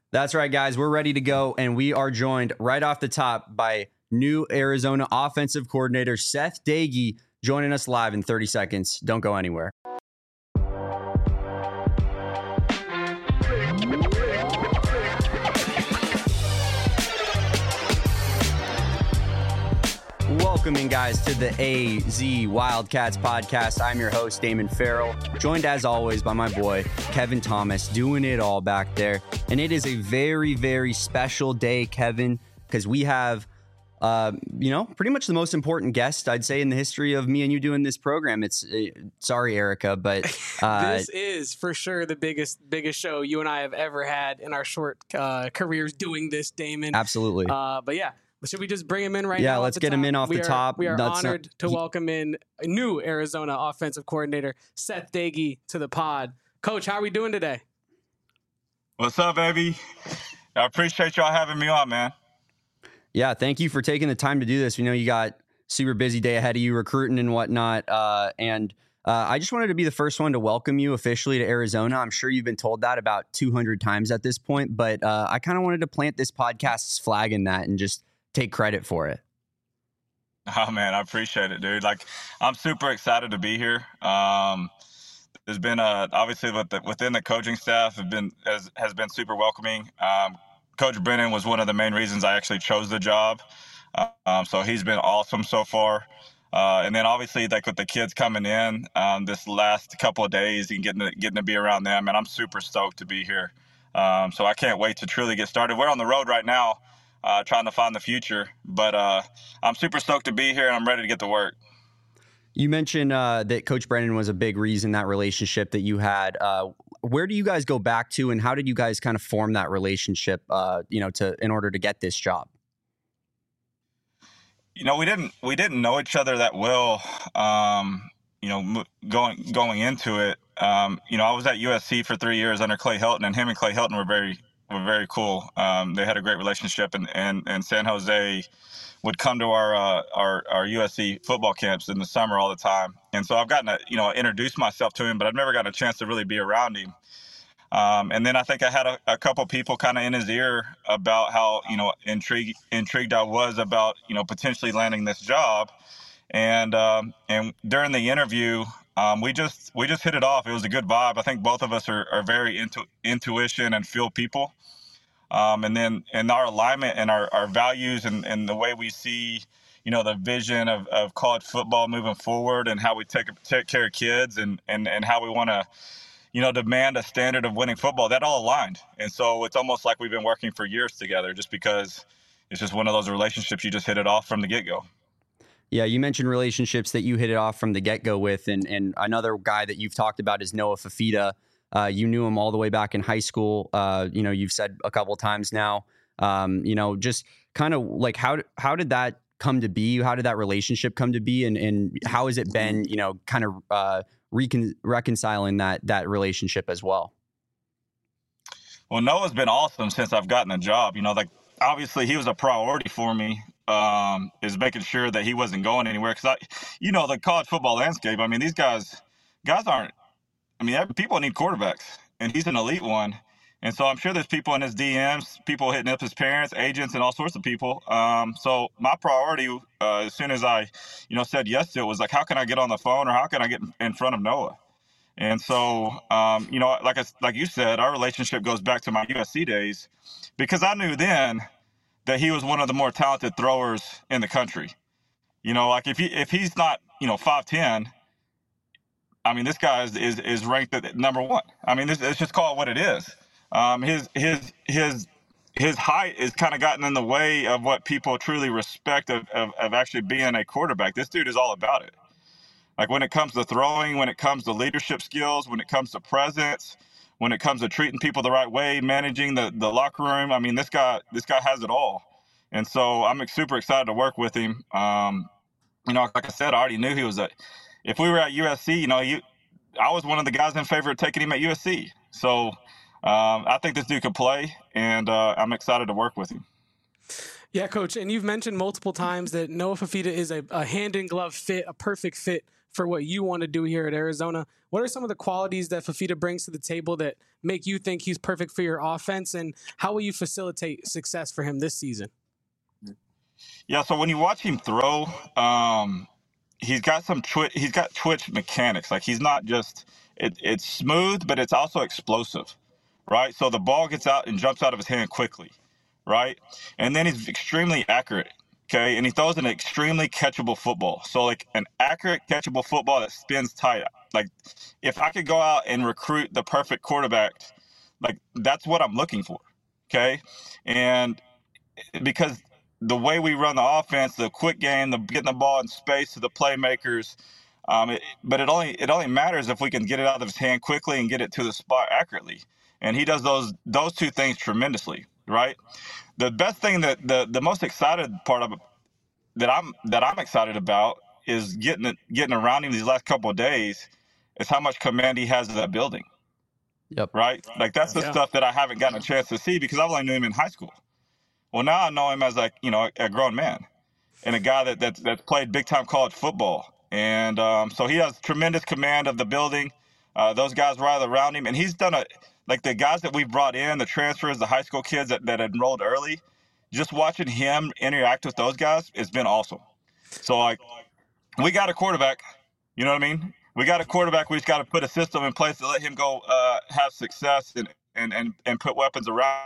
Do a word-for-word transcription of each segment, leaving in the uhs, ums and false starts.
That's right, guys. We're ready to go, and we are joined right off the top by new Arizona offensive coordinator Seth Doege, joining us live in thirty seconds. Don't go anywhere. Welcoming, guys, to the A Z Wildcats podcast. I'm your host, Damon Farrell, joined as always by my boy, Kevin Thomas, doing it all back there. And it is a very, very special day, Kevin, because we have, uh, you know, pretty much the most important guest, I'd say, in the history of me and you doing this program. It's uh, sorry, Erica, but uh, this is for sure the biggest, biggest show you and I have ever had in our short uh, careers doing this, Damon. Absolutely. Uh, but yeah. Should we just bring him in right yeah, now? Yeah, let's get top? him in off we the are, top. We are That's honored not, to he, welcome in a new Arizona offensive coordinator, Seth Doege, to the pod. Coach, how are we doing today? What's up, baby? I appreciate y'all having me on, man. Yeah, thank you for taking the time to do this. We know you got super busy day ahead of you, recruiting and whatnot. Uh, and uh, I just wanted to be the first one to welcome you officially to Arizona. I'm sure you've been told that about two hundred times at this point, but uh, I kind of wanted to plant this podcast's flag in that and just take credit for it. Oh man, I appreciate it, dude. Like, I'm super excited to be here. Um, there's been uh, obviously with the, within the coaching staff have been has, has been super welcoming. Um, Coach Brennan was one of the main reasons I actually chose the job. Uh, um, so he's been awesome so far. Uh, and then obviously, like with the kids coming in um, this last couple of days and getting to, getting to be around them, and I'm super stoked to be here. Um, so I can't wait to truly get started. We're on the road right now. Uh, trying to find the future, but uh, I'm super stoked to be here and I'm ready to get to work. You mentioned uh, that Coach Brennan was a big reason, that relationship that you had. Uh, where do you guys go back to, and how did you guys kind of form that relationship? Uh, you know, to in order to get this job. You know, we didn't we didn't know each other that well. Um, you know, going going into it. Um, you know, I was at U S C for three years under Clay Helton, and him and Clay Helton were very. were very cool. Um, they had a great relationship, and, and, and San Jose would come to our, uh, our our U S C football camps in the summer all the time. And so I've gotten to, you know, introduce myself to him, but I've never gotten a chance to really be around him. Um, and then I think I had a, a couple people kind of in his ear about how, you know, intrigued intrigued I was about, you know, potentially landing this job. And um, and during the interview, um, we just we just hit it off. It was a good vibe. I think both of us are, are very into intuition and feel people. Um, and then and our alignment and our, our values and, and the way we see, you know, the vision of, of college football moving forward and how we take take care of kids and, and, and how we want to, you know, demand a standard of winning football, that all aligned. And so it's almost like we've been working for years together just because it's just one of those relationships you just hit it off from the get-go. Yeah, you mentioned relationships that you hit it off from the get-go with. And, and another guy that you've talked about is Noah Fifita. Uh, you knew him all the way back in high school. Uh, you know, you've said a couple of times now, um, you know, just kind of like how, how did that come to be? How did that relationship come to be? And, and how has it been, you know, kind of uh, recon- reconciling that, that relationship as well? Well, Noah's been awesome since I've gotten a job. You know, like obviously he was a priority for me, um, is making sure that he wasn't going anywhere. Cause I, you know, the college football landscape, I mean, these guys, guys aren't, I mean, people need quarterbacks, and he's an elite one. And so I'm sure there's people in his D Ms, people hitting up his parents, agents, and all sorts of people. Um, so my priority, uh, as soon as I, you know, said yes to it, was like, how can I get on the phone or how can I get in front of Noah? And so, um, you know, like I, like you said, our relationship goes back to my U S C days because I knew then that he was one of the more talented throwers in the country. You know, like if he if he's not, you know, five ten. I mean, this guy is, is, is ranked at number one. I mean, this, let's just call it what it is. Um, his his his his height has kind of gotten in the way of what people truly respect of, of, of actually being a quarterback. This dude is all about it. Like when it comes to throwing, when it comes to leadership skills, when it comes to presence, when it comes to treating people the right way, managing the, the locker room. I mean, this guy this guy has it all. And so I'm super excited to work with him. Um, you know, like I said, I already knew he was a – if we were at U S C, you know, you, I was one of the guys in favor of taking him at U S C. So um, I think this dude could play, and uh, I'm excited to work with him. Yeah, Coach, and you've mentioned multiple times that Noah Fifita is a, a hand-in-glove fit, a perfect fit for what you want to do here at Arizona. What are some of the qualities that Fifita brings to the table that make you think he's perfect for your offense, and how will you facilitate success for him this season? Yeah, so when you watch him throw, um, he's got some twi- he's got twitch mechanics. Like he's not just it, it's smooth, but it's also explosive, right? So the ball gets out and jumps out of his hand quickly, right? And then he's extremely accurate, okay? And he throws an extremely catchable football. So like an accurate catchable football that spins tight. Like if I could go out and recruit the perfect quarterback, like that's what I'm looking for, okay? And because the way we run the offense, the quick game, the getting the ball in space to the playmakers, um, it, but it only it only matters if we can get it out of his hand quickly and get it to the spot accurately. And he does those those two things tremendously, right? The best thing that the the most excited part of it that I'm that I'm excited about is getting it, getting around him these last couple of days is how much command he has of that building. Yep. Right? Like that's the Yeah. stuff that I haven't gotten a chance to see because I've only knew him in high school. Well, now I know him as like, you know, a grown man and a guy that that's, that's played big time college football. And um, so he has tremendous command of the building. Uh, those guys rally around him. And he's done a, like the guys that we've brought in, the transfers, the high school kids that, that enrolled early, just watching him interact with those guys has been awesome. So like, we got a quarterback, you know what I mean? We got a quarterback. We just got to put a system in place to let him go uh, have success and, and, and, and put weapons around.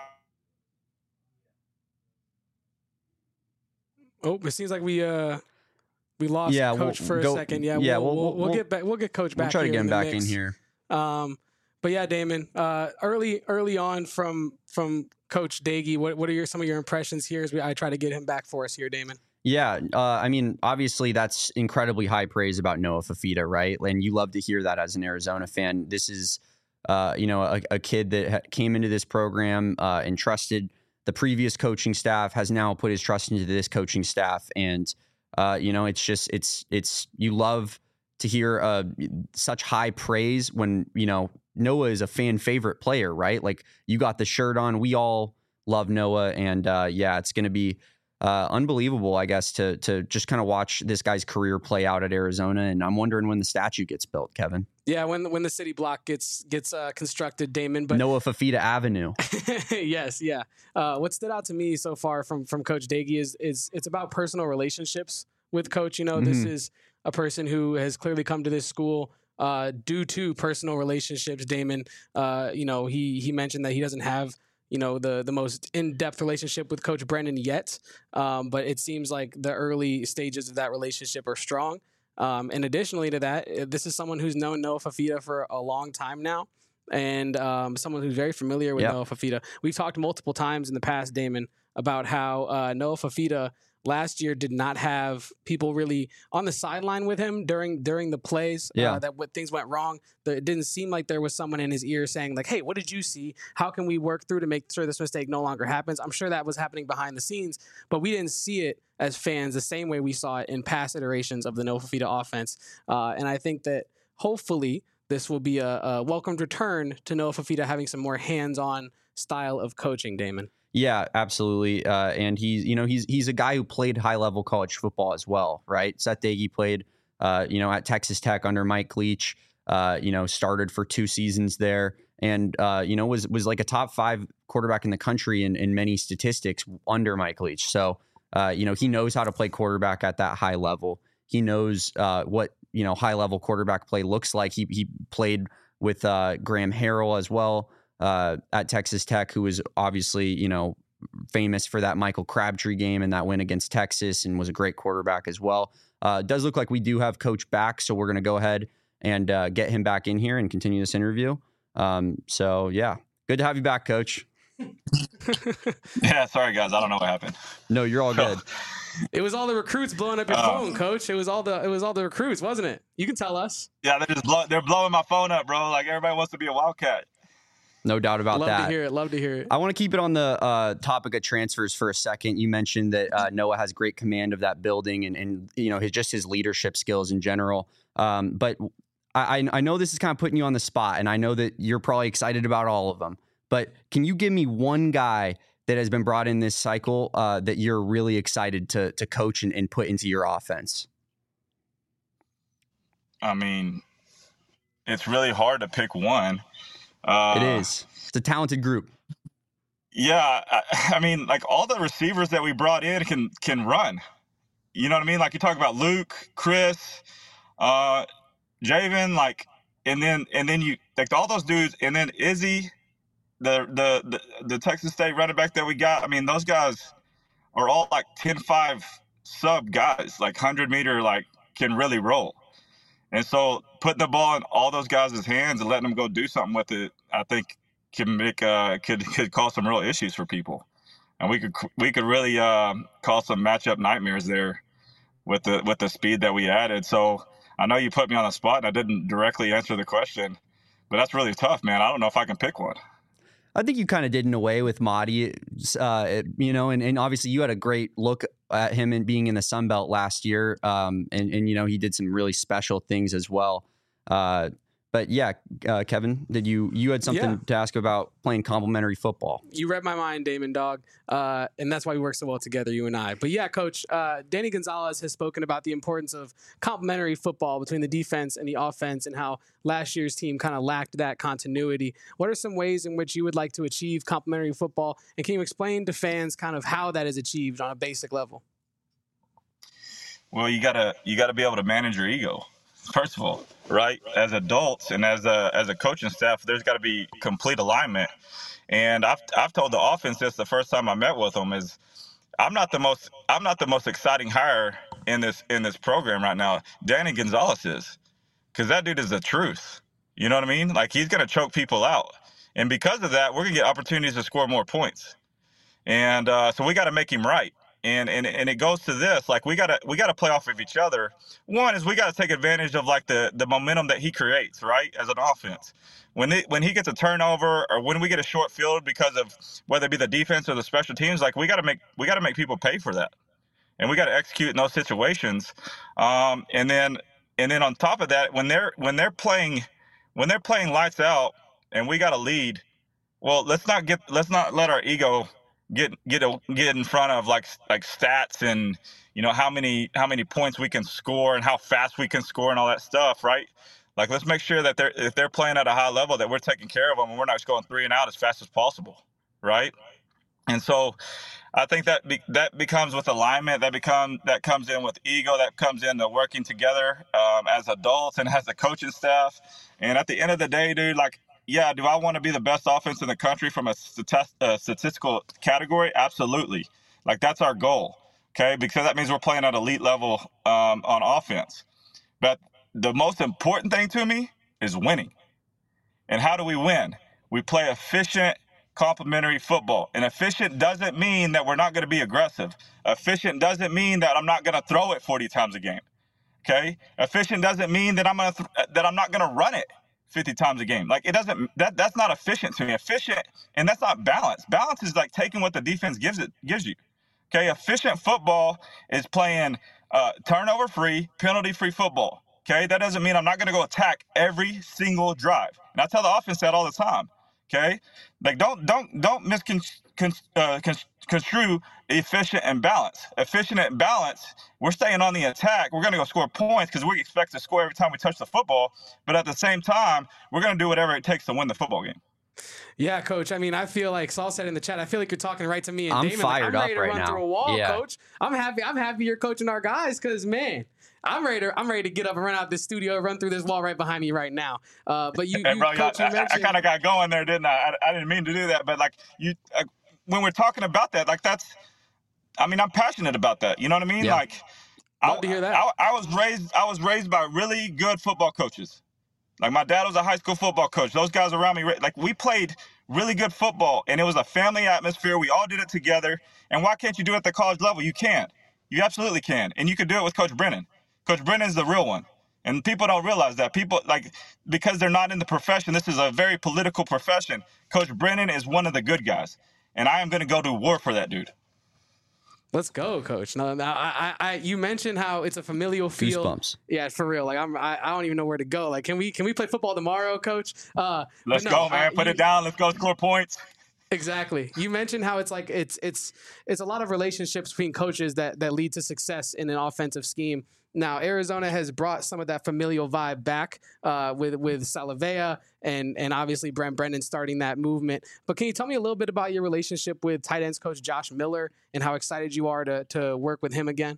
Oh, it seems like we uh we lost Yeah, Coach we'll for a go- second. Yeah, yeah, we'll, we'll- we'll, we'll we'll- get back. We'll get Coach back. We'll try to here get in him the back mix. in here. Um, but yeah, Damon, uh, early early on from from Coach Daigie, what what are your some of your impressions here as we I try to get him back for us here, Damon? Yeah, uh, I mean, obviously that's incredibly high praise about Noah Fifita, right? And you love to hear that as an Arizona fan. This is, uh, you know, a, a kid that ha- came into this program uh, and trusted the previous coaching staff, has now put his trust into this coaching staff, and uh, you know, it's just it's it's you love to hear uh, such high praise when you know Noah is a fan favorite player, right? Like you got the shirt on, we all love Noah, and uh, yeah, it's going to be. Uh, unbelievable, I guess, to to just kind of watch this guy's career play out at Arizona, and I'm wondering when the statue gets built, Kevin. Yeah, when when the city block gets gets uh, constructed, Damon. But Noah Fifita Avenue. yes, yeah. Uh, what stood out to me so far from from Coach Daigie is is it's about personal relationships with Coach. You know, mm-hmm. This is a person who has clearly come to this school uh, due to personal relationships. Damon, uh, you know, he he mentioned that he doesn't have. You know, the the most in-depth relationship with Coach Brennan yet, um, but it seems like the early stages of that relationship are strong. Um, and additionally to that, this is someone who's known Noah Fifita for a long time now, and um, someone who's very familiar with yep. Noah Fifita. We've talked multiple times in the past, Damon, about how uh, Noah Fifita last year did not have people really on the sideline with him during during the plays yeah. uh, that what things went wrong. It didn't seem like there was someone in his ear saying like, hey, what did you see? How can we work through to make sure this mistake no longer happens? I'm sure that was happening behind the scenes, but we didn't see it as fans the same way we saw it in past iterations of the Noah Fifita offense. Uh, and I think that hopefully this will be a, a welcomed return to Noah Fifita having some more hands-on style of coaching, Damon. Yeah, absolutely. Uh, and he's, you know, he's he's a guy who played high level college football as well, right? Seth Daigie played, uh, you know, at Texas Tech under Mike Leach. Uh, you know, started for two seasons there, and uh, you know, was was like a top five quarterback in the country in, in many statistics under Mike Leach. So, uh, you know, he knows how to play quarterback at that high level. He knows uh, what you know high level quarterback play looks like. He he played with uh, Graham Harrell as well. Uh, at Texas Tech, who was obviously, you know, famous for that Michael Crabtree game and that win against Texas, and was a great quarterback as well. Uh, it does look like we do have Coach back, so we're going to go ahead and uh, get him back in here and continue this interview. Um, so, yeah, good to have you back, Coach. Yeah, sorry, guys. I don't know what happened. No, you're all good. It was all the recruits blowing up your uh, phone, Coach. It was all the it was all the recruits, wasn't it? You can tell us. Yeah, they're just blow, they're blowing my phone up, bro. Like everybody wants to be a Wildcat. No doubt about love that. Love to hear it. Love to hear it. I want to keep it on the uh, topic of transfers for a second. You mentioned that uh, Noah has great command of that building and, and you know, his just his leadership skills in general. Um, but I, I know this is kind of putting you on the spot, and I know that you're probably excited about all of them. But can you give me one guy that has been brought in this cycle uh, that you're really excited to to coach and, and put into your offense? I mean, it's really hard to pick one. Uh, it is. It's a talented group. Yeah, I, I mean, like all the receivers that we brought in can can run. You know what I mean? Like you talk about Luke, Chris, uh, Javen, like, and then and then you like all those dudes, and then Izzy, the the the, the Texas State running back that we got. I mean, those guys are all like ten five sub guys, like hundred meter, like can really roll. And so putting the ball in all those guys' hands and letting them go do something with it, I think can make uh could could cause some real issues for people, and we could we could really um, cause some matchup nightmares there with the with the speed that we added. So I know you put me on the spot and I didn't directly answer the question, but that's really tough, man. I don't know if I can pick one. I think you kind of did in a way with Madi, uh, you know, and, and obviously you had a great look at him and being in the Sun Belt last year, um, and and you know he did some really special things as well. Uh, But yeah, uh, Kevin, did you you had something Yeah. to ask about playing complementary football? You read my mind, Damon Dog, uh, and that's why we work so well together, you and I. But yeah, Coach, uh, Danny Gonzalez has spoken about the importance of complementary football between the defense and the offense, and how last year's team kind of lacked that continuity. What are some ways in which you would like to achieve complementary football, and can you explain to fans kind of how that is achieved on a basic level? Well, you gotta you gotta be able to manage your ego. First of all, right? As adults and as a as a coaching staff, there's got to be complete alignment. And I've I've told the offense this the first time I met with them is I'm not the most I'm not the most exciting hire in this in this program right now. Danny Gonzalez is, because that dude is the truth. You know what I mean? Like he's gonna choke people out, and because of that, we're gonna get opportunities to score more points. And uh, so we got to make him right. And, and and it goes to this, like we gotta we gotta play off of each other. One is we gotta take advantage of like the the momentum that he creates, right, as an offense. When it, when he gets a turnover or when we get a short field because of whether it be the defense or the special teams, like we gotta make we gotta make people pay for that, and we gotta execute in those situations. Um, and then and then on top of that, when they're when they're playing when they're playing lights out and we got a lead, well, let's not get let's not let our ego get get a, get in front of like like stats and you know how many how many points we can score and how fast we can score and all that stuff, right? Like let's make sure that they're if they're playing at a high level that we're taking care of them and we're not just going three and out as fast as possible, right? And so I think that be, that becomes with alignment, that become that comes in with ego, that comes into working together um, as adults and as a coaching staff. And at the end of the day, dude, like. Yeah, do I want to be the best offense in the country from a statist- uh, statistical category? Absolutely. Like, that's our goal, okay? Because that means we're playing at elite level um, on offense. But the most important thing to me is winning. And how do we win? We play efficient, complementary football. And efficient doesn't mean that we're not going to be aggressive. Efficient doesn't mean that I'm not going to throw it forty times a game, okay? Efficient doesn't mean that I'm gonna th- that I'm not going to run it fifty times a game. Like it doesn't, that that's not efficient to me. Efficient, and that's not balance. Balance is like taking what the defense gives it, gives you. Okay. Efficient football is playing uh, turnover free, penalty free football. Okay. That doesn't mean I'm not going to go attack every single drive. And I tell the offense that all the time. Okay. Like don't, don't, don't misconstrue uh, construe efficient and balance. Efficient and balance, we're staying on the attack. We're going to go score points because we expect to score every time we touch the football. But at the same time, we're going to do whatever it takes to win the football game. Yeah, Coach. I mean, I feel like Saul said in the chat, I feel like you're talking right to me and I'm Damon. fired like, I'm ready up to right run now. through a wall, Yeah. Coach. I'm happy. I'm happy you're coaching our guys because, man, I'm ready to I'm ready to get up and run out this studio, run through this wall right behind me right now. Uh, but you, Hey, you bro, Coach, I, you I, mentioned I kind of got going there, didn't I? I? I didn't mean to do that, but like you, uh, when we're talking about that, like that's, I mean, I'm passionate about that. You know what I mean? Yeah. Like, Love I, to hear that. I, I was raised, I was raised by really good football coaches. Like my dad was a high school football coach. Those guys around me, like we played really good football, and it was a family atmosphere. We all did it together. And why can't you do it at the college level? You can. You absolutely can. And you could do it with Coach Brennan. Coach Brennan's the real one. And people don't realize that. People, like, because they're not in the profession, this is a very political profession. Coach Brennan is one of the good guys. And I am going to go to war for that dude. Let's go, Coach. No, no, I, I, I, you mentioned how it's a familial feel. Goosebumps. Yeah, for real. Like I'm, I, I don't even know where to go. Like, can we, can we play football tomorrow, Coach? Uh, Let's but no, go, man. uh, Put you, it down. Let's go score points. Exactly. You mentioned how it's like it's it's it's a lot of relationships between coaches that that lead to success in an offensive scheme. Now, Arizona has brought some of that familial vibe back uh, with with Salavea and and obviously Brent Brennan starting that movement. But can you tell me a little bit about your relationship with tight ends coach Josh Miller and how excited you are to to work with him again?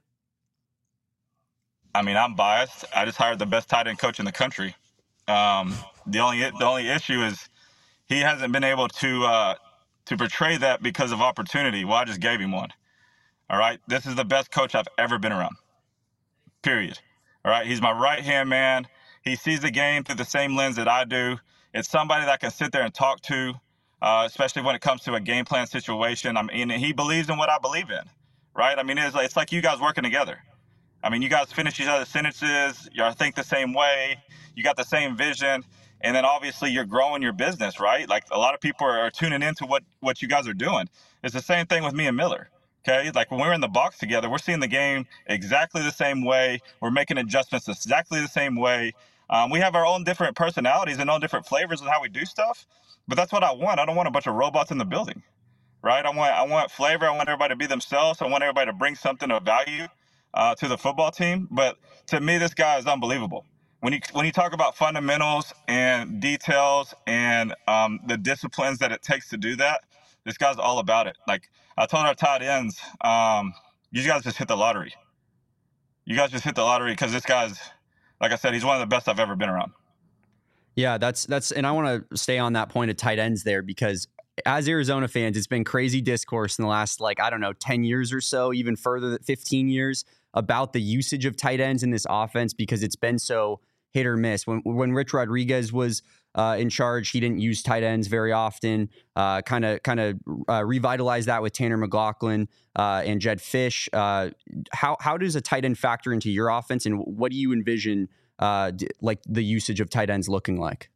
I mean, I'm biased. I just hired the best tight end coach in the country. Um, the only the only issue is he hasn't been able to uh, to portray that because of opportunity. Well, I just gave him one. All right, this is the best coach I've ever been around. Period. All right, he's my right-hand man. He sees the game through the same lens that I do. It's somebody that I can sit there and talk to, uh, especially when it comes to a game plan situation. I mean, he believes in what I believe in, right? I mean, it's like, it's like you guys working together. I mean, you guys finish each other's sentences. You think the same way. You got the same vision. And then obviously you're growing your business, right? Like a lot of people are, are tuning into what, what you guys are doing. It's the same thing with me and Miller. Okay, like when we're in the box together, we're seeing the game exactly the same way. We're making adjustments exactly the same way. Um, we have our own different personalities and own different flavors of how we do stuff. But that's what I want. I don't want a bunch of robots in the building, right? I want I want flavor. I want everybody to be themselves. I want everybody to bring something of value uh, to the football team. But to me, this guy is unbelievable. When you when you talk about fundamentals and details and um, the disciplines that it takes to do that, this guy's all about it. Like I told our tight ends, um, you guys just hit the lottery. You guys just hit the lottery because this guy's, like I said, he's one of the best I've ever been around. Yeah, that's that's, and I want to stay on that point of tight ends there because as Arizona fans, it's been crazy discourse in the last, like, I don't know, ten years or so, even further than fifteen years about the usage of tight ends in this offense because it's been so hit or miss. When when Rich Rodriguez was uh, in charge, he didn't use tight ends very often. Kind of kind of revitalized that with Tanner McLaughlin uh, and Jed Fish. Uh, how how does a tight end factor into your offense, and what do you envision uh, d- like the usage of tight ends looking like?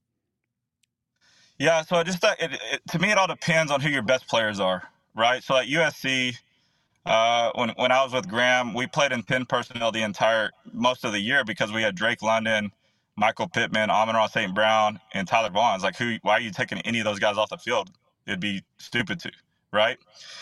Yeah, so I just thought it, it, to me it all depends on who your best players are, right? So at U S C. Uh, when when I was with Graham, we played in pin personnel the entire most of the year because we had Drake London, Michael Pittman, Amon-Ra Saint Brown, and Tyler Vaughn. Like, who? Why are you taking any of those guys off the field? It'd be stupid to, right?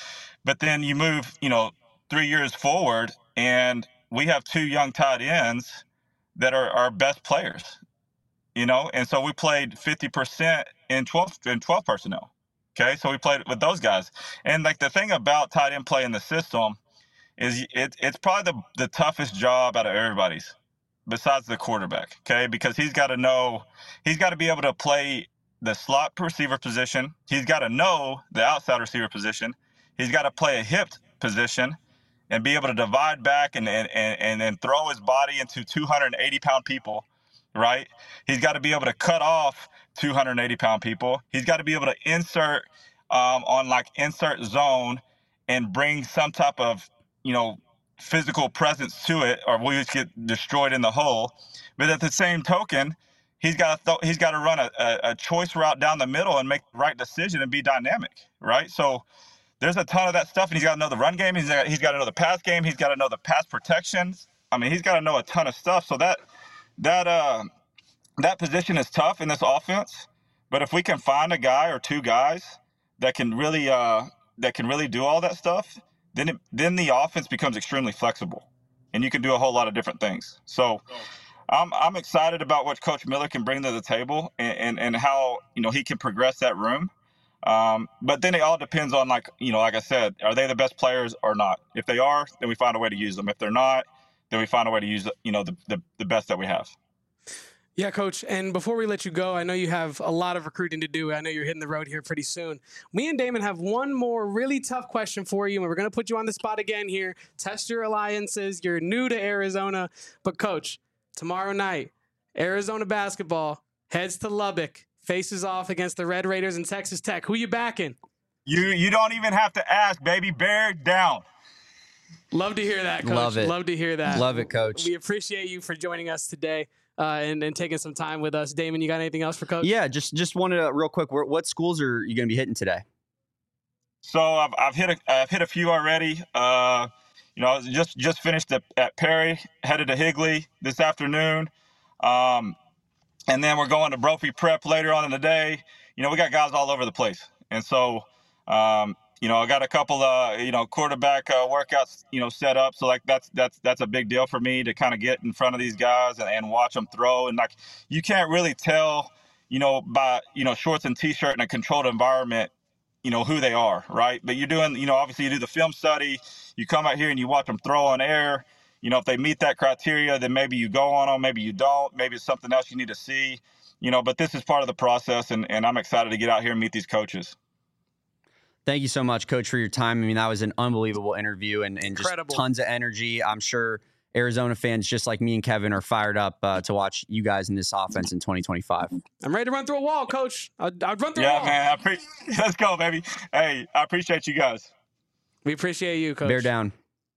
But then you move, you know, three years forward, and we have two young tight ends that are our best players, you know, and so we played fifty percent in twelve in twelve personnel. Okay, so we played with those guys. And, like, the thing about tight end play in the system is it, it's probably the, the toughest job out of everybody's besides the quarterback, okay, because he's got to know – he's got to be able to play the slot receiver position. He's got to know the outside receiver position. He's got to play a hip position and be able to divide back and and, and, and throw his body into two hundred eighty pound people, right? He's got to be able to cut off two hundred eighty pound people. He's got to be able to insert um, on like insert zone and bring some type of, you know, physical presence to it, or we just get destroyed in the hole. But at the same token, he's got to th- he's got to run a, a, a choice route down the middle and make the right decision and be dynamic, right? So there's a ton of that stuff, and he's got to know the run game. He's got, he's got to know the pass game. He's got to know the pass protections. I mean, he's got to know a ton of stuff. So that that uh, that position is tough in this offense. But if we can find a guy or two guys that can really uh, that can really do all that stuff, then it, then the offense becomes extremely flexible, and you can do a whole lot of different things. So I'm I'm excited about what Coach Miller can bring to the table, and and, and how, you know, he can progress that room. Um, but then it all depends on, like, you know, like I said, are they the best players or not? If they are, then we find a way to use them. If they're not, then we find a way to use, you know, the the, the best that we have. Yeah, Coach. And before we let you go, I know you have a lot of recruiting to do. I know you're hitting the road here pretty soon. Me and Damon have one more really tough question for you, and we're going to put you on the spot again here. Test your alliances. You're new to Arizona. But, Coach, tomorrow night, Arizona basketball heads to Lubbock, faces off against the Red Raiders and Texas Tech. Who you backing? You you don't even have to ask, baby. Bear down. Love to hear that, Coach. Love it. Love to hear that. Love it, Coach. We appreciate you for joining us today. Uh, and, and taking some time with us. Damon, you got anything else for Coach? Yeah, just just wanted to, real quick, where, what schools are you going to be hitting today? So I've I've hit a I've hit a few already. Uh, you know, I was just just finished at, at Perry, headed to Higley this afternoon, um, and then we're going to Brophy Prep later on in the day. You know, we got guys all over the place, and so Um, you know, I got a couple of, you know, quarterback uh, workouts, you know, set up. So like that's that's that's a big deal for me to kind of get in front of these guys and, and watch them throw. And like you can't really tell, you know, by, you know, shorts and t-shirt in a controlled environment, you know, who they are, right? But you're doing, you know, obviously you do the film study, you come out here and you watch them throw on air. You know, if they meet that criteria, then maybe you go on them, maybe you don't, maybe it's something else you need to see, you know, but this is part of the process, and, and I'm excited to get out here and meet these coaches. Thank you so much, Coach, for your time. I mean, that was an unbelievable interview and, and just tons of energy. I'm sure Arizona fans, just like me and Kevin, are fired up uh, to watch you guys in this offense in twenty twenty-five. I'm ready to run through a wall, Coach. I'd, I'd run through yeah, a wall. Yeah, man. I pre- Let's go, baby. Hey, I appreciate you guys. We appreciate you, Coach. Bear down.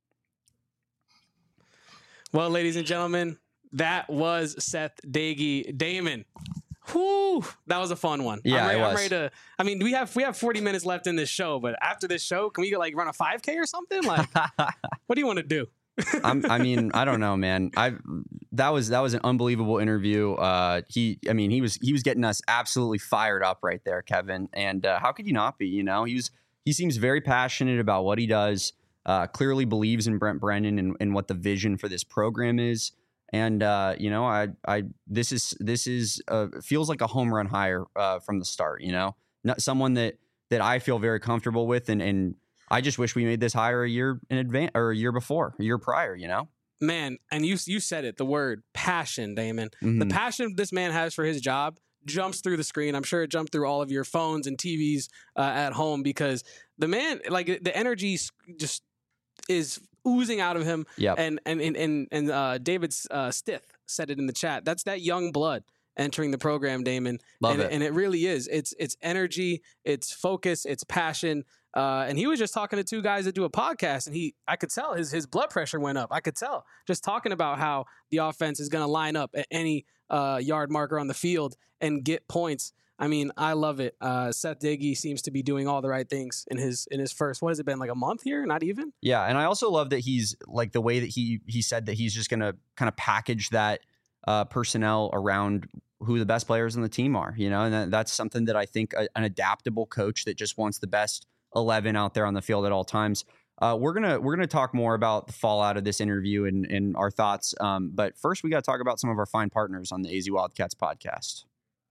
Well, ladies and gentlemen, that was Seth Doege. Damon, whoo, that was a fun one. Yeah, I'm ready, it was. I'm ready to. I mean, we have we have forty minutes left in this show, but after this show, can we like run a five K or something? Like, what do you want to do? I'm, I mean, I don't know, man. I that was that was an unbelievable interview. Uh, he, I mean, he was he was getting us absolutely fired up right there, Kevin. And uh, how could you not be? You know, he was he seems very passionate about what he does. Uh, clearly believes in Brent Brennan and, and what the vision for this program is. And, uh, you know, I, I, this is, this is, uh, feels like a home run hire, uh, from the start, you know, not someone that, that I feel very comfortable with. And, and I just wish we made this hire a year in advance or a year before, a year prior, you know, man. And you, you said it, the word passion, Damon, mm-hmm. the passion this man has for his job jumps through the screen. I'm sure it jumped through all of your phones and T Vs, uh, at home, because the man, like the energy just is oozing out of him. Yep. And and and and, and uh, David uh, Stith said it in the chat. That's that young blood entering the program, Damon. Love and, it. And it really is. It's it's energy, it's focus, it's passion. Uh, and he was just talking to two guys that do a podcast, and he, I could tell his his blood pressure went up. I could tell just talking about how the offense is going to line up at any uh, yard marker on the field and get points. I mean, I love it. Uh, Seth Doege seems to be doing all the right things in his in his first. What has it been, like a month here? Not even. Yeah, and I also love that he's like the way that he he said that he's just going to kind of package that uh, personnel around who the best players on the team are. You know, and that, that's something that I think a, an adaptable coach that just wants the best eleven out there on the field at all times. Uh, we're gonna we're gonna talk more about the fallout of this interview and and our thoughts. Um, but first, we got to talk about some of our fine partners on the A Z Wildcats podcast.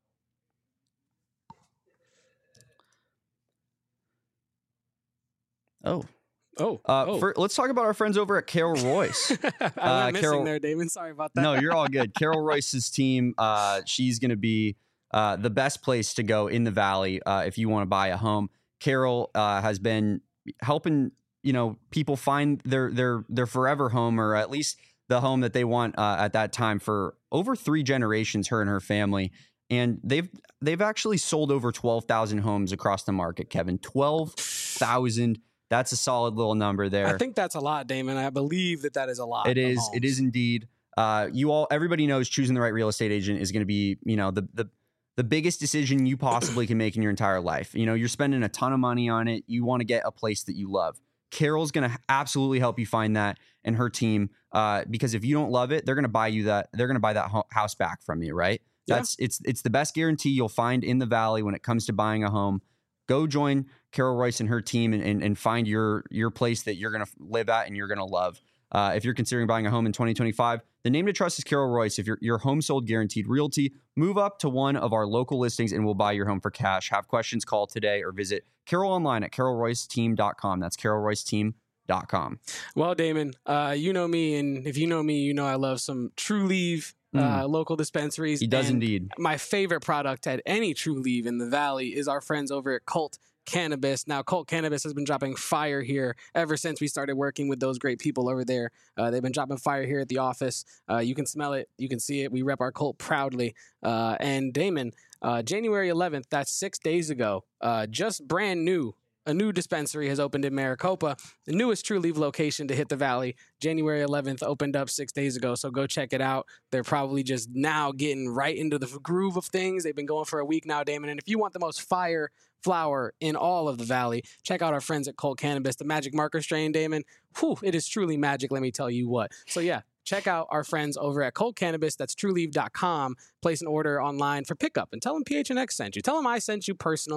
Oh, oh, uh, oh. For, let's talk about our friends over at Carol Royce. I went uh, missing Carol, there, Damon. Sorry about that. No, you're all good. Carol Royce's team. Uh, she's going to be uh, the best place to go in the Valley uh, if you want to buy a home. Carol uh, has been helping you know people find their their their forever home, or at least the home that they want uh, at that time, for over three generations. Her and her family. And they've they've actually sold over twelve thousand homes across the market, Kevin. twelve thousand. That's a solid little number there. I think that's a lot, Damon. I believe that that is a lot. It is. It is indeed. Uh, you all, everybody knows choosing the right real estate agent is going to be, you know, the the the biggest decision you possibly can make in your entire life. You know, you're spending a ton of money on it. You want to get a place that you love. Carol's going to absolutely help you find that, and her team, uh, because if you don't love it, they're going to buy you that. They're going to buy that ho- house back from you, right? Yeah. That's it's it's the best guarantee you'll find in the Valley when it comes to buying a home. Go join Carol Royce and her team and, and, and find your your place that you're going to live at and you're going to love. Uh, if you're considering buying a home in twenty twenty-five, the name to trust is Carol Royce. If your your home sold guaranteed realty, move up to one of our local listings and we'll buy your home for cash. Have questions, call today or visit Carol online at carol royce team dot com. That's carol royce team dot com. Well, Damon, uh, you know me, and if you know me, you know I love some True Leave. Uh, Mm. local dispensaries. He does And indeed. My favorite product at any True Leave in the Valley is our friends over at Cult Cannabis. Now, Cult Cannabis has been dropping fire here ever since we started working with those great people over there. Uh, they've been dropping fire here at the office. Uh, you can smell it. You can see it. We rep our Cult proudly. Uh, and Damon, uh, January eleventh, that's six days ago, uh, just brand new. A new dispensary has opened in Maricopa, the newest True Leave location to hit the Valley. January eleventh opened up six days ago, so go check it out. They're probably just now getting right into the groove of things. They've been going for a week now, Damon. And if you want the most fire flower in all of the Valley, check out our friends at Cult Cannabis, the Magic Marker strain, Damon. Whew, it is truly magic, let me tell you what. So yeah, check out our friends over at Cult Cannabis. That's true leave dot com. Place an order online for pickup and tell them P H N X sent you. Tell them I sent you personally.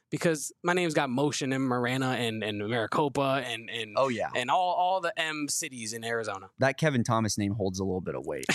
because my name's got motion in Marana and, and Maricopa and and Oh yeah, and all, all the M cities in Arizona. that Kevin Thomas name holds a little bit of weight.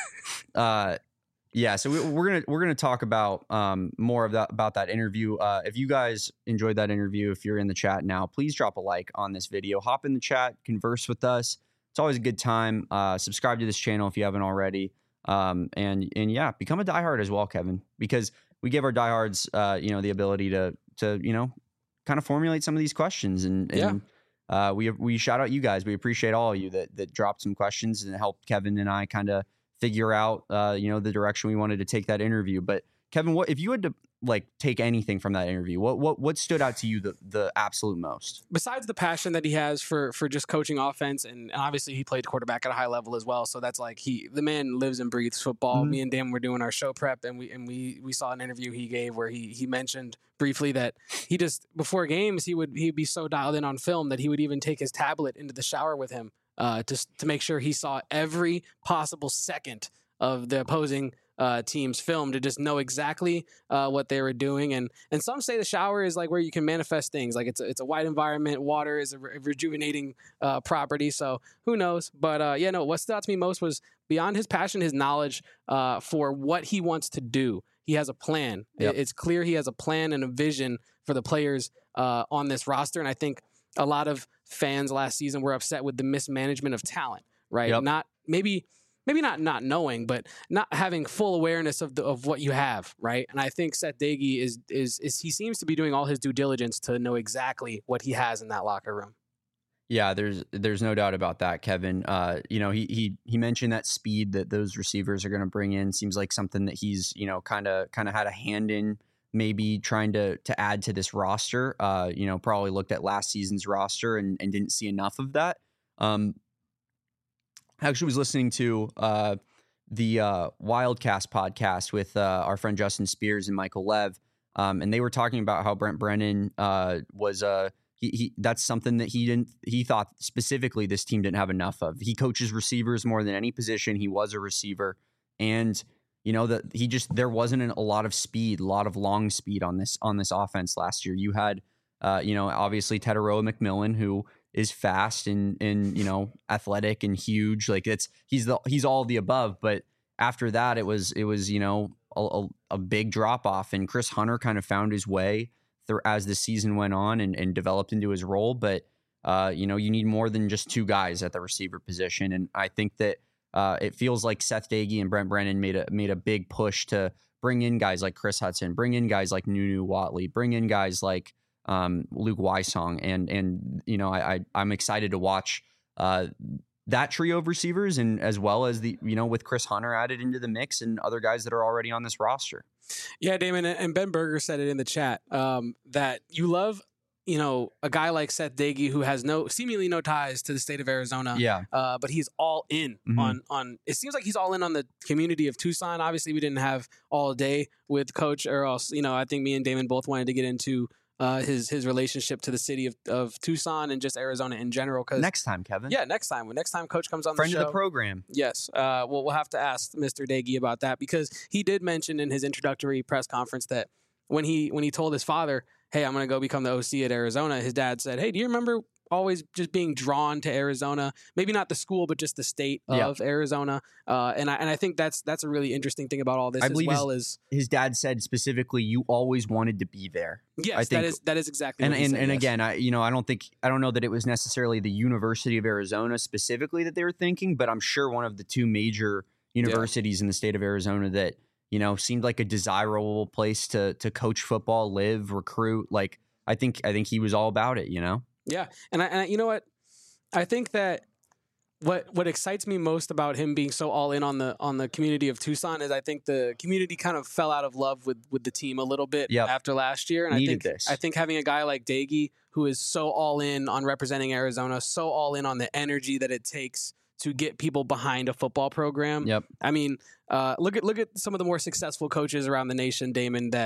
uh, yeah, so we, we're gonna we're gonna talk about um, more of that about that interview. Uh, if you guys enjoyed that interview, if you're in the chat now, please drop a like on this video. Hop in the chat, converse with us. It's always a good time. Uh, subscribe to this channel if you haven't already, um, and and yeah, become a diehard as well, Kevin, because we give our diehards, uh, you know, the ability to to you know, kind of formulate some of these questions, and, and yeah. uh, we we shout out you guys. We appreciate all of you that that dropped some questions and helped Kevin and I kind of figure out, uh, you know, the direction we wanted to take that interview. But Kevin, what if you had to like take anything from that interview? What what what stood out to you the the absolute most? Besides the passion that he has for for just coaching offense, and obviously he played quarterback at a high level as well. So that's like he the man lives and breathes football. Mm-hmm. Me and Dan were doing our show prep, and we and we we saw an interview he gave where he he mentioned briefly that he just before games he would he'd be so dialed in on film that he would even take his tablet into the shower with him, uh, just to make sure he saw every possible second of the opposing uh, team's film to just know exactly uh, what they were doing. And and some say the shower is like where you can manifest things. Like it's a, it's a white environment. Water is a re- rejuvenating uh, property. So who knows? But uh, yeah, no, what stood out to me most was beyond his passion, his knowledge uh, for what he wants to do. He has a plan. Yep. It's clear he has a plan and a vision for the players uh, on this roster. And I think a lot of fans last season were upset with the mismanagement of talent, right? Yep. Not maybe... Maybe not not knowing, but not having full awareness of the, of what you have, right? And I think Seth Doege is, is is he seems to be doing all his due diligence to know exactly what he has in that locker room. Yeah, there's there's no doubt about that, Kevin. Uh, you know, he he he mentioned that speed that those receivers are going to bring in seems like something that he's, you know, kind of kind of had a hand in, maybe trying to to add to this roster. Uh, you know, probably looked at last season's roster and and didn't see enough of that. Um, I actually was listening to uh, the uh, Wildcast podcast with uh, our friend Justin Spears and Michael Lev, um, and they were talking about how Brent Brennan uh, was uh, he, he that's something that he didn't he thought specifically this team didn't have enough of. He coaches receivers more than any position. He was a receiver, and you know that he just there wasn't an, a lot of speed, a lot of long speed on this on this offense last year. You had uh, you know obviously Teteroa McMillan, who is fast and and you know athletic and huge. Like it's he's the he's all the above. But after that, it was it was you know a, a, a big drop off. And Chris Hunter kind of found his way through as the season went on and, and developed into his role. But uh, you know you need more than just two guys at the receiver position. And I think that uh, it feels like Seth Doege and Brent Brennan made a made a big push to bring in guys like Chris Hudson, bring in guys like Nunu Watley, bring in guys like Um, Luke Wysong, and and you know I, I I'm excited to watch uh, that trio of receivers, and as well as the you know with Chris Hunter added into the mix and other guys that are already on this roster. Yeah, Damon, and Ben Berger said it in the chat um, that you love you know a guy like Seth Doege who has no seemingly no ties to the state of Arizona. Yeah, uh, but he's all in mm-hmm. on on. It seems like he's all in on the community of Tucson. Obviously, we didn't have all day with Coach, or else you know I think me and Damon both wanted to get into Uh, his his relationship to the city of, of Tucson and just Arizona in general. Cause next time, Kevin. Yeah, next time. When next time Coach comes on Friend the show. of the program. Yes. Uh, well, we'll have to ask Mister Doege about that because he did mention in his introductory press conference that when he when he told his father, hey, I'm going to go become the O C at Arizona, his dad said, hey, do you remember always just being drawn to Arizona? Maybe not the school, but just the state of yeah. Arizona. Uh, and I and I think that's that's a really interesting thing about all this, I as believe well his, as his dad said specifically, you always wanted to be there. Yes, I think, that is that is exactly. And what he and, said, and yes. again, I you know I don't think I don't know that it was necessarily the University of Arizona specifically that they were thinking, but I'm sure one of the two major universities yeah. in the state of Arizona that you know seemed like a desirable place to to coach football, live, recruit. Like I think I think he was all about it. You know. Yeah, and I, and I, you know what, I think that what what excites me most about him being so all in on the on the community of Tucson is I think the community kind of fell out of love with with the team a little bit yep. after last year, and Needed I think this. I think having a guy like Doege who is so all in on representing Arizona, so all in on the energy that it takes to get people behind a football program. Yep. I mean, uh, look at look at some of the more successful coaches around the nation, Damon, that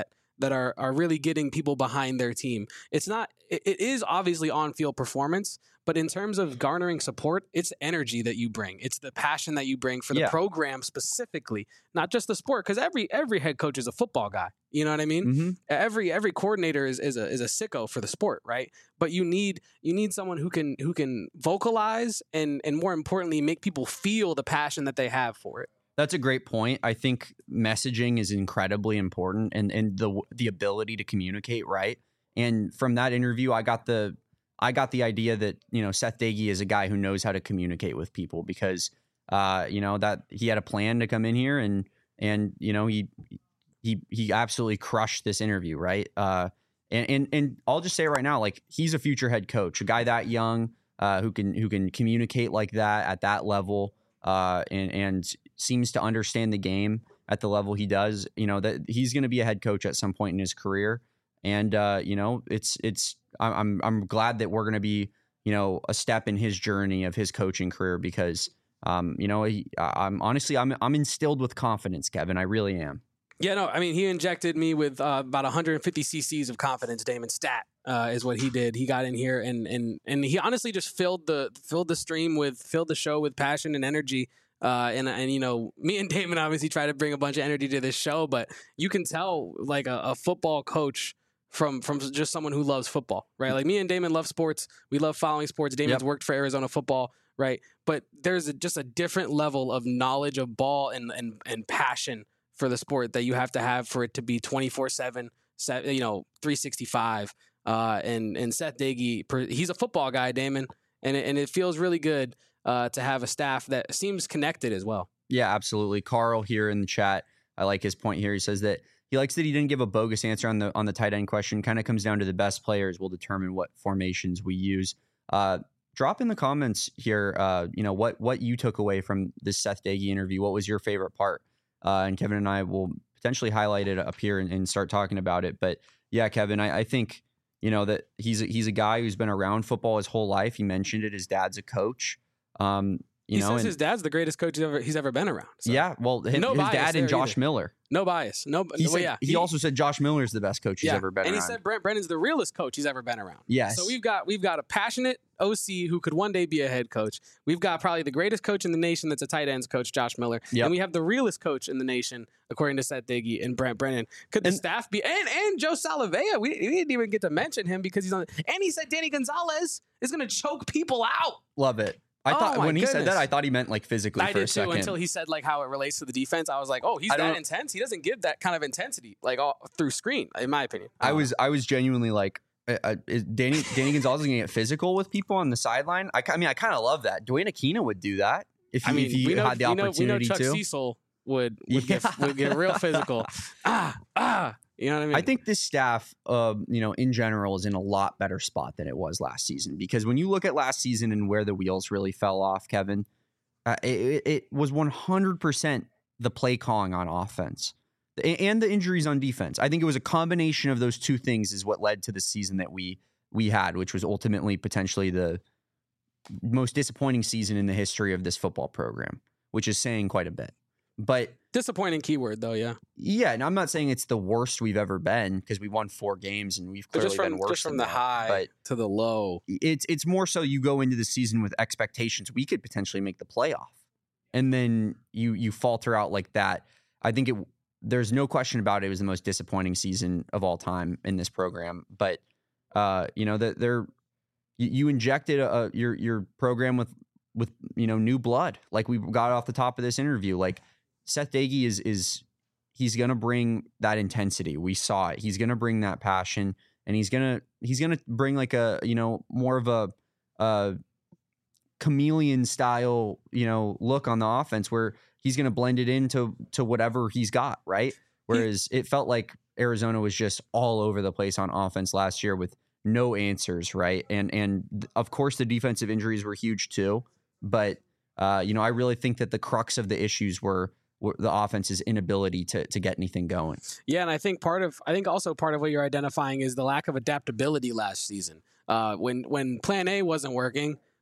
that are are really getting people behind their team. It's not. It, it is obviously on field performance, but in terms of garnering support, it's energy that you bring. It's the passion that you bring for the Yeah. program specifically, not just the sport. Because every every head coach is a football guy. You know what I mean? Mm-hmm. Every every coordinator is, is a is a sicko for the sport, right? But you need you need someone who can who can vocalize and and more importantly make people feel the passion that they have for it. That's a great point. I think messaging is incredibly important, and and the the ability to communicate, right? And from that interview, I got the I got the idea that, you know, Seth Doege is a guy who knows how to communicate with people because uh, you know, that he had a plan to come in here and and you know, he he he absolutely crushed this interview, right? Uh and and and I'll just say it right now, like, he's a future head coach, a guy that young, uh, who can who can communicate like that at that level, uh, and and seems to understand the game at the level he does. You know, that he's going to be a head coach at some point in his career, and uh, you know, it's it's I'm I'm glad that we're going to be, you know, a step in his journey of his coaching career because um, you know, he, I'm honestly I'm I'm instilled with confidence, Kevin. I really am. Yeah, no, I mean, he injected me with uh, about one hundred fifty cc's of confidence. Damon Stat uh, is what he did. He got in here and and and he honestly just filled the filled the stream with filled the show with passion and energy. Uh, and and you know, me and Damon obviously try to bring a bunch of energy to this show, but you can tell like a, a football coach from from just someone who loves football, right? Like me and Damon love sports. We love following sports. Damon's Yep. worked for Arizona football, right? But there's a, just a different level of knowledge of ball and and and passion for the sport that you have to have for it to be twenty-four seven, you know, three sixty-five. Uh, and, and Seth Doege, he's a football guy, Damon, and it, and it feels really good uh, to have a staff that seems connected as well. Yeah, absolutely. Carl here in the chat, I like his point here. He says that he likes that he didn't give a bogus answer on the on the tight end question. Kind of comes down to the best players will determine what formations we use. Uh, drop in the comments here, uh, you know, what what you took away from this Seth Doege interview. What was your favorite part? Uh, and Kevin and I will potentially highlight it up here and, and start talking about it. But yeah, Kevin, I, I think, you know, that he's a, he's a guy who's been around football his whole life. He mentioned it. His dad's a coach. Um, you he know, says and, his dad's the greatest coach he's ever he's ever been around. So. Yeah, well, his, No his bias dad there and Josh either. Miller. No bias. No, He, well, said, yeah. he, He- also said Josh Miller is the best coach he's yeah. ever been and around. he said Brent Brennan's the realest coach he's ever been around. Yes. So we've got we've got a passionate O C who could one day be a head coach. We've got probably the greatest coach in the nation that's a tight ends coach, Josh Miller. Yep. And we have the realest coach in the nation, according to Seth Doege and Brent Brennan. Could the And- staff be and and Joe Salavea? We, we didn't even get to mention him because he's on. And he said Danny Gonzalez is going to choke people out. Love it. I Oh thought my when he said goodness. that, I thought he meant like physically I for did a too second. until he said like how it relates to the defense. I was like, oh, he's I that don't- intense. He doesn't give that kind of intensity like all through screen, in my opinion. I don't was I was genuinely like, uh, uh, is Danny Danny Gonzalez is going to get physical with people on the sideline. I, I mean, I kind of love that. Dwayne Aquina would do that if know. he, I if mean, he we know, had the we know, we know opportunity Chuck to. Cecil would would, Yeah. get, would get real physical. ah, ah, you know what I mean? I think this staff, uh, you know, in general, is in a lot better spot than it was last season. Because when you look at last season and where the wheels really fell off, Kevin, uh, it, it was one hundred percent the play calling on offense a- and the injuries on defense. I think it was a combination of those two things is what led to the season that we we had, which was ultimately potentially the most disappointing season in the history of this football program, which is saying quite a bit. But disappointing keyword though, yeah. yeah, and I'm not saying it's the worst we've ever been because we won four games and we've But clearly just from been worse just from than the that. high But to the low. it's it's more so you go into the season with expectations. We could potentially make the playoff, and then you you falter out like that. I think it. There's no question about it. It was the most disappointing season of all time in this program. But uh, you know that they're you, you injected a, your your program with with you know new blood, like we got off the top of this interview. Like Seth Doege is is he's gonna bring that intensity. We saw it. He's gonna bring that passion, and he's gonna he's gonna bring like a you know more of a uh, chameleon style you know look on the offense where he's gonna blend it into to whatever he's got, right? Whereas it felt like Arizona was just all over the place on offense last year with no answers, right? And and th- of course the defensive injuries were huge too, but uh, you know I really think that the crux of the issues were, were the offense's inability to to get anything going. Yeah, and I think part of I think also part of what you're identifying is the lack of adaptability last season. Uh, when when Plan A wasn't working,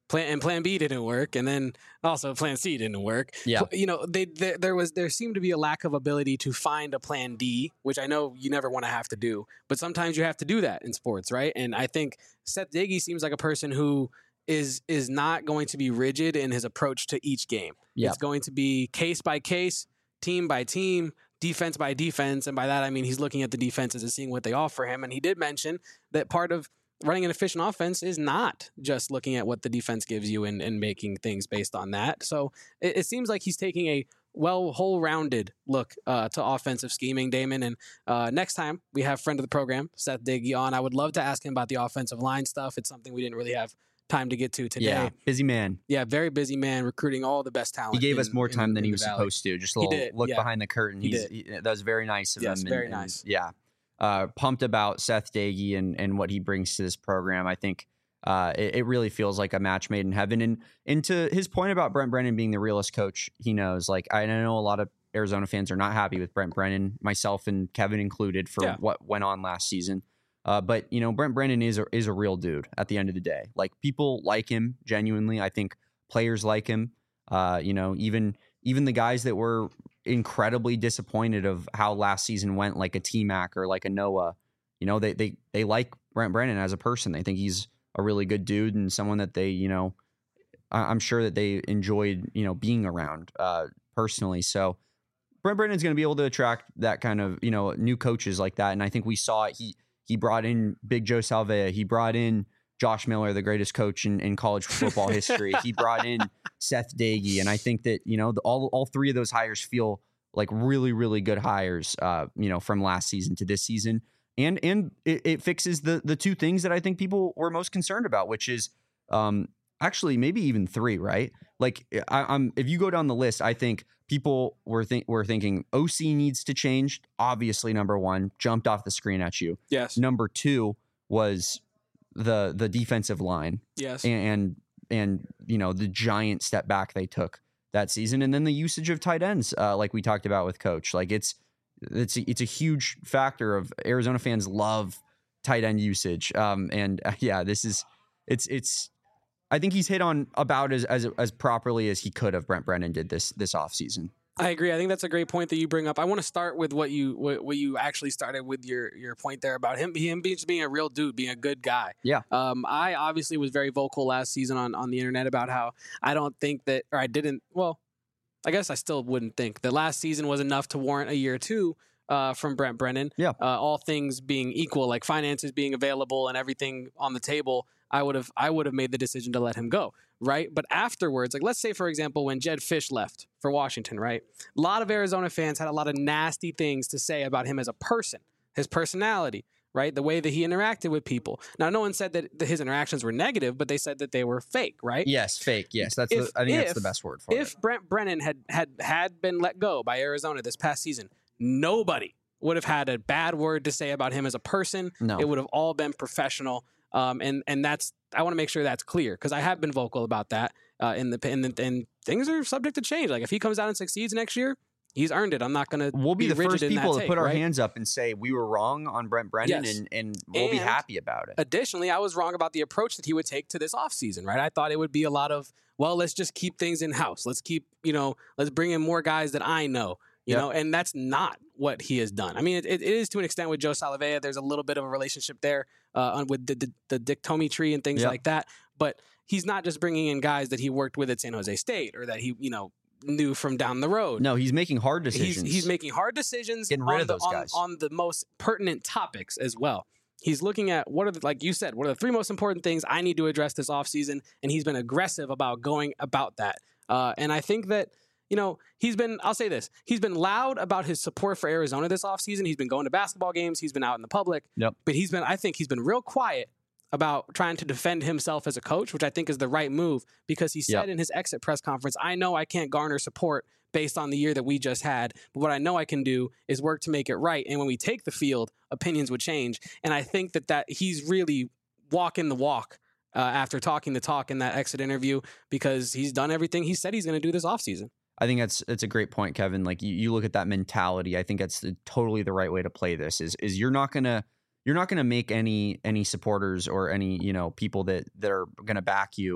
Plan and Plan B didn't work, and then also Plan C didn't work. Yeah, you know, they, they there was there seemed to be a lack of ability to find a Plan D, which I know you never want to have to do, but sometimes you have to do that in sports, right? And I think Seth Doege seems like a person who is is not going to be rigid in his approach to each game. Yeah. It's going to be case by case, team by team, defense by defense, and by that I mean he's looking at the defenses and seeing what they offer him. And he did mention that part of running an efficient offense is not just looking at what the defense gives you and, and making things based on that. So it, it seems like he's taking a well, whole-rounded look uh, to offensive scheming, Damon. And uh, next time we have friend of the program, Seth Doege, on, I would love to ask him about the offensive line stuff. It's something we didn't really have time to get to today. Yeah, busy man. Yeah, very busy man, recruiting all the best talent. He gave in, us more time in, than in he was Valley. supposed to. Just a little did, look yeah. behind the curtain. He He's, did. he, that was very nice of Yes, him. very and, nice. And, yeah. Uh, pumped about Seth Doege and, and what he brings to this program. I think uh, it, it really feels like a match made in heaven. And, and to his point about Brent Brennan being the realest coach he knows, like I know a lot of Arizona fans are not happy with Brent Brennan, myself and Kevin included, for Yeah. what went on last season. Uh, but, you know, Brent Brennan is a, is a real dude at the end of the day. Like, people like him genuinely. I think players like him. Uh, you know, even even the guys that were incredibly disappointed of how last season went, like a T-Mac or like a Noah, you know, they they they like Brent Brennan as a person. They think he's a really good dude and someone that they, you know, I, I'm sure that they enjoyed, you know, being around uh, personally. So Brent Brennan's going to be able to attract that kind of, you know, new coaches like that. And I think we saw it. He he brought in Big Joe Salvea. He brought in Josh Miller, the greatest coach in, in college football history. He brought in Seth Doege. And I think that, you know, the, all all three of those hires feel like really, really good hires, uh, you know, from last season to this season. And and it, it fixes the the two things that I think people were most concerned about, which is um, actually maybe even three, right? Like I, I'm if you go down the list, I think people were think were thinking O C needs to change. Obviously, number one, jumped off the screen at you. Yes. Number two was the the defensive line. Yes. And, and and you know the giant step back they took that season, and then the usage of tight ends, uh, like we talked about with Coach. Like it's it's a, it's a huge factor of Arizona fans love tight end usage. Um, and uh, yeah, this is it's it's. I think he's hit on about as as as properly as he could have. Brent Brennan did this this offseason. I agree. I think that's a great point that you bring up. I want to start with what you what, what you actually started with your your point there about him him being just being a real dude, being a good guy. Yeah. Um, I obviously was very vocal last season on on the internet about how I don't think that, or I didn't. Well, I guess I still wouldn't think that last season was enough to warrant a year or two uh, from Brent Brennan. Yeah. Uh, all things being equal, like finances being available and everything on the table, I would have I would have made the decision to let him go, right? But afterwards, like let's say for example when Jed Fish left for Washington, right? A lot of Arizona fans had a lot of nasty things to say about him as a person, his personality, right? The way that he interacted with people. Now, no one said that his interactions were negative, but they said that they were fake, right? Yes, fake. Yes, that's If- the, I think that's if- the best word for If it. Brent Brennan had had had been let go by Arizona this past season, nobody would have had a bad word to say about him as a person. No. It would have all been professional. Um, and and that's I want to make sure that's clear because I have been vocal about that. Uh, in the and, and things are subject to change. Like if he comes out and succeeds next year, he's earned it. I'm not going to. We'll be, be the rigid first in that people to take, put our right? hands up and say we were wrong on Brent Brennan, Yes. and, and we'll be And- happy about it. Additionally, I was wrong about the approach that he would take to this offseason, right? I thought it would be a lot of, well, let's just keep things in house. Let's keep, you know, let's bring in more guys that I know, you Yep. know, and that's not what he has done. I mean, it, it is to an extent with Joe Salavea. There's a little bit of a relationship there uh, on, with the, the, the Dick Tomey tree and things Yep. like that. But he's not just bringing in guys that he worked with at San Jose State or that he, you know, knew from down the road. No, he's making hard He's, decisions. he's making hard decisions Getting rid on, of the, those on, guys. on the most pertinent topics as well. He's looking at what are the, like you said, what are the three most important things I need to address this offseason, and he's been aggressive about going about that. Uh, and I think that, you know, he's been, I'll say this, he's been loud about his support for Arizona this offseason. He's been going to basketball games. He's been out in the public. Yep. But he's been, I think he's been real quiet about trying to defend himself as a coach, which I think is the right move because he said Yep. in his exit press conference, I know I can't garner support based on the year that we just had, but what I know I can do is work to make it right. And when we take the field, opinions would change. And I think that, that he's really walking the walk uh, after talking the talk in that exit interview because he's done everything he said he's going to do this offseason. I think that's that's a great point, Kevin. Like you, you look at that mentality. I think that's the, totally the right way to play this. Is is you're not gonna you're not gonna make any any supporters or any you know people that that are gonna back you.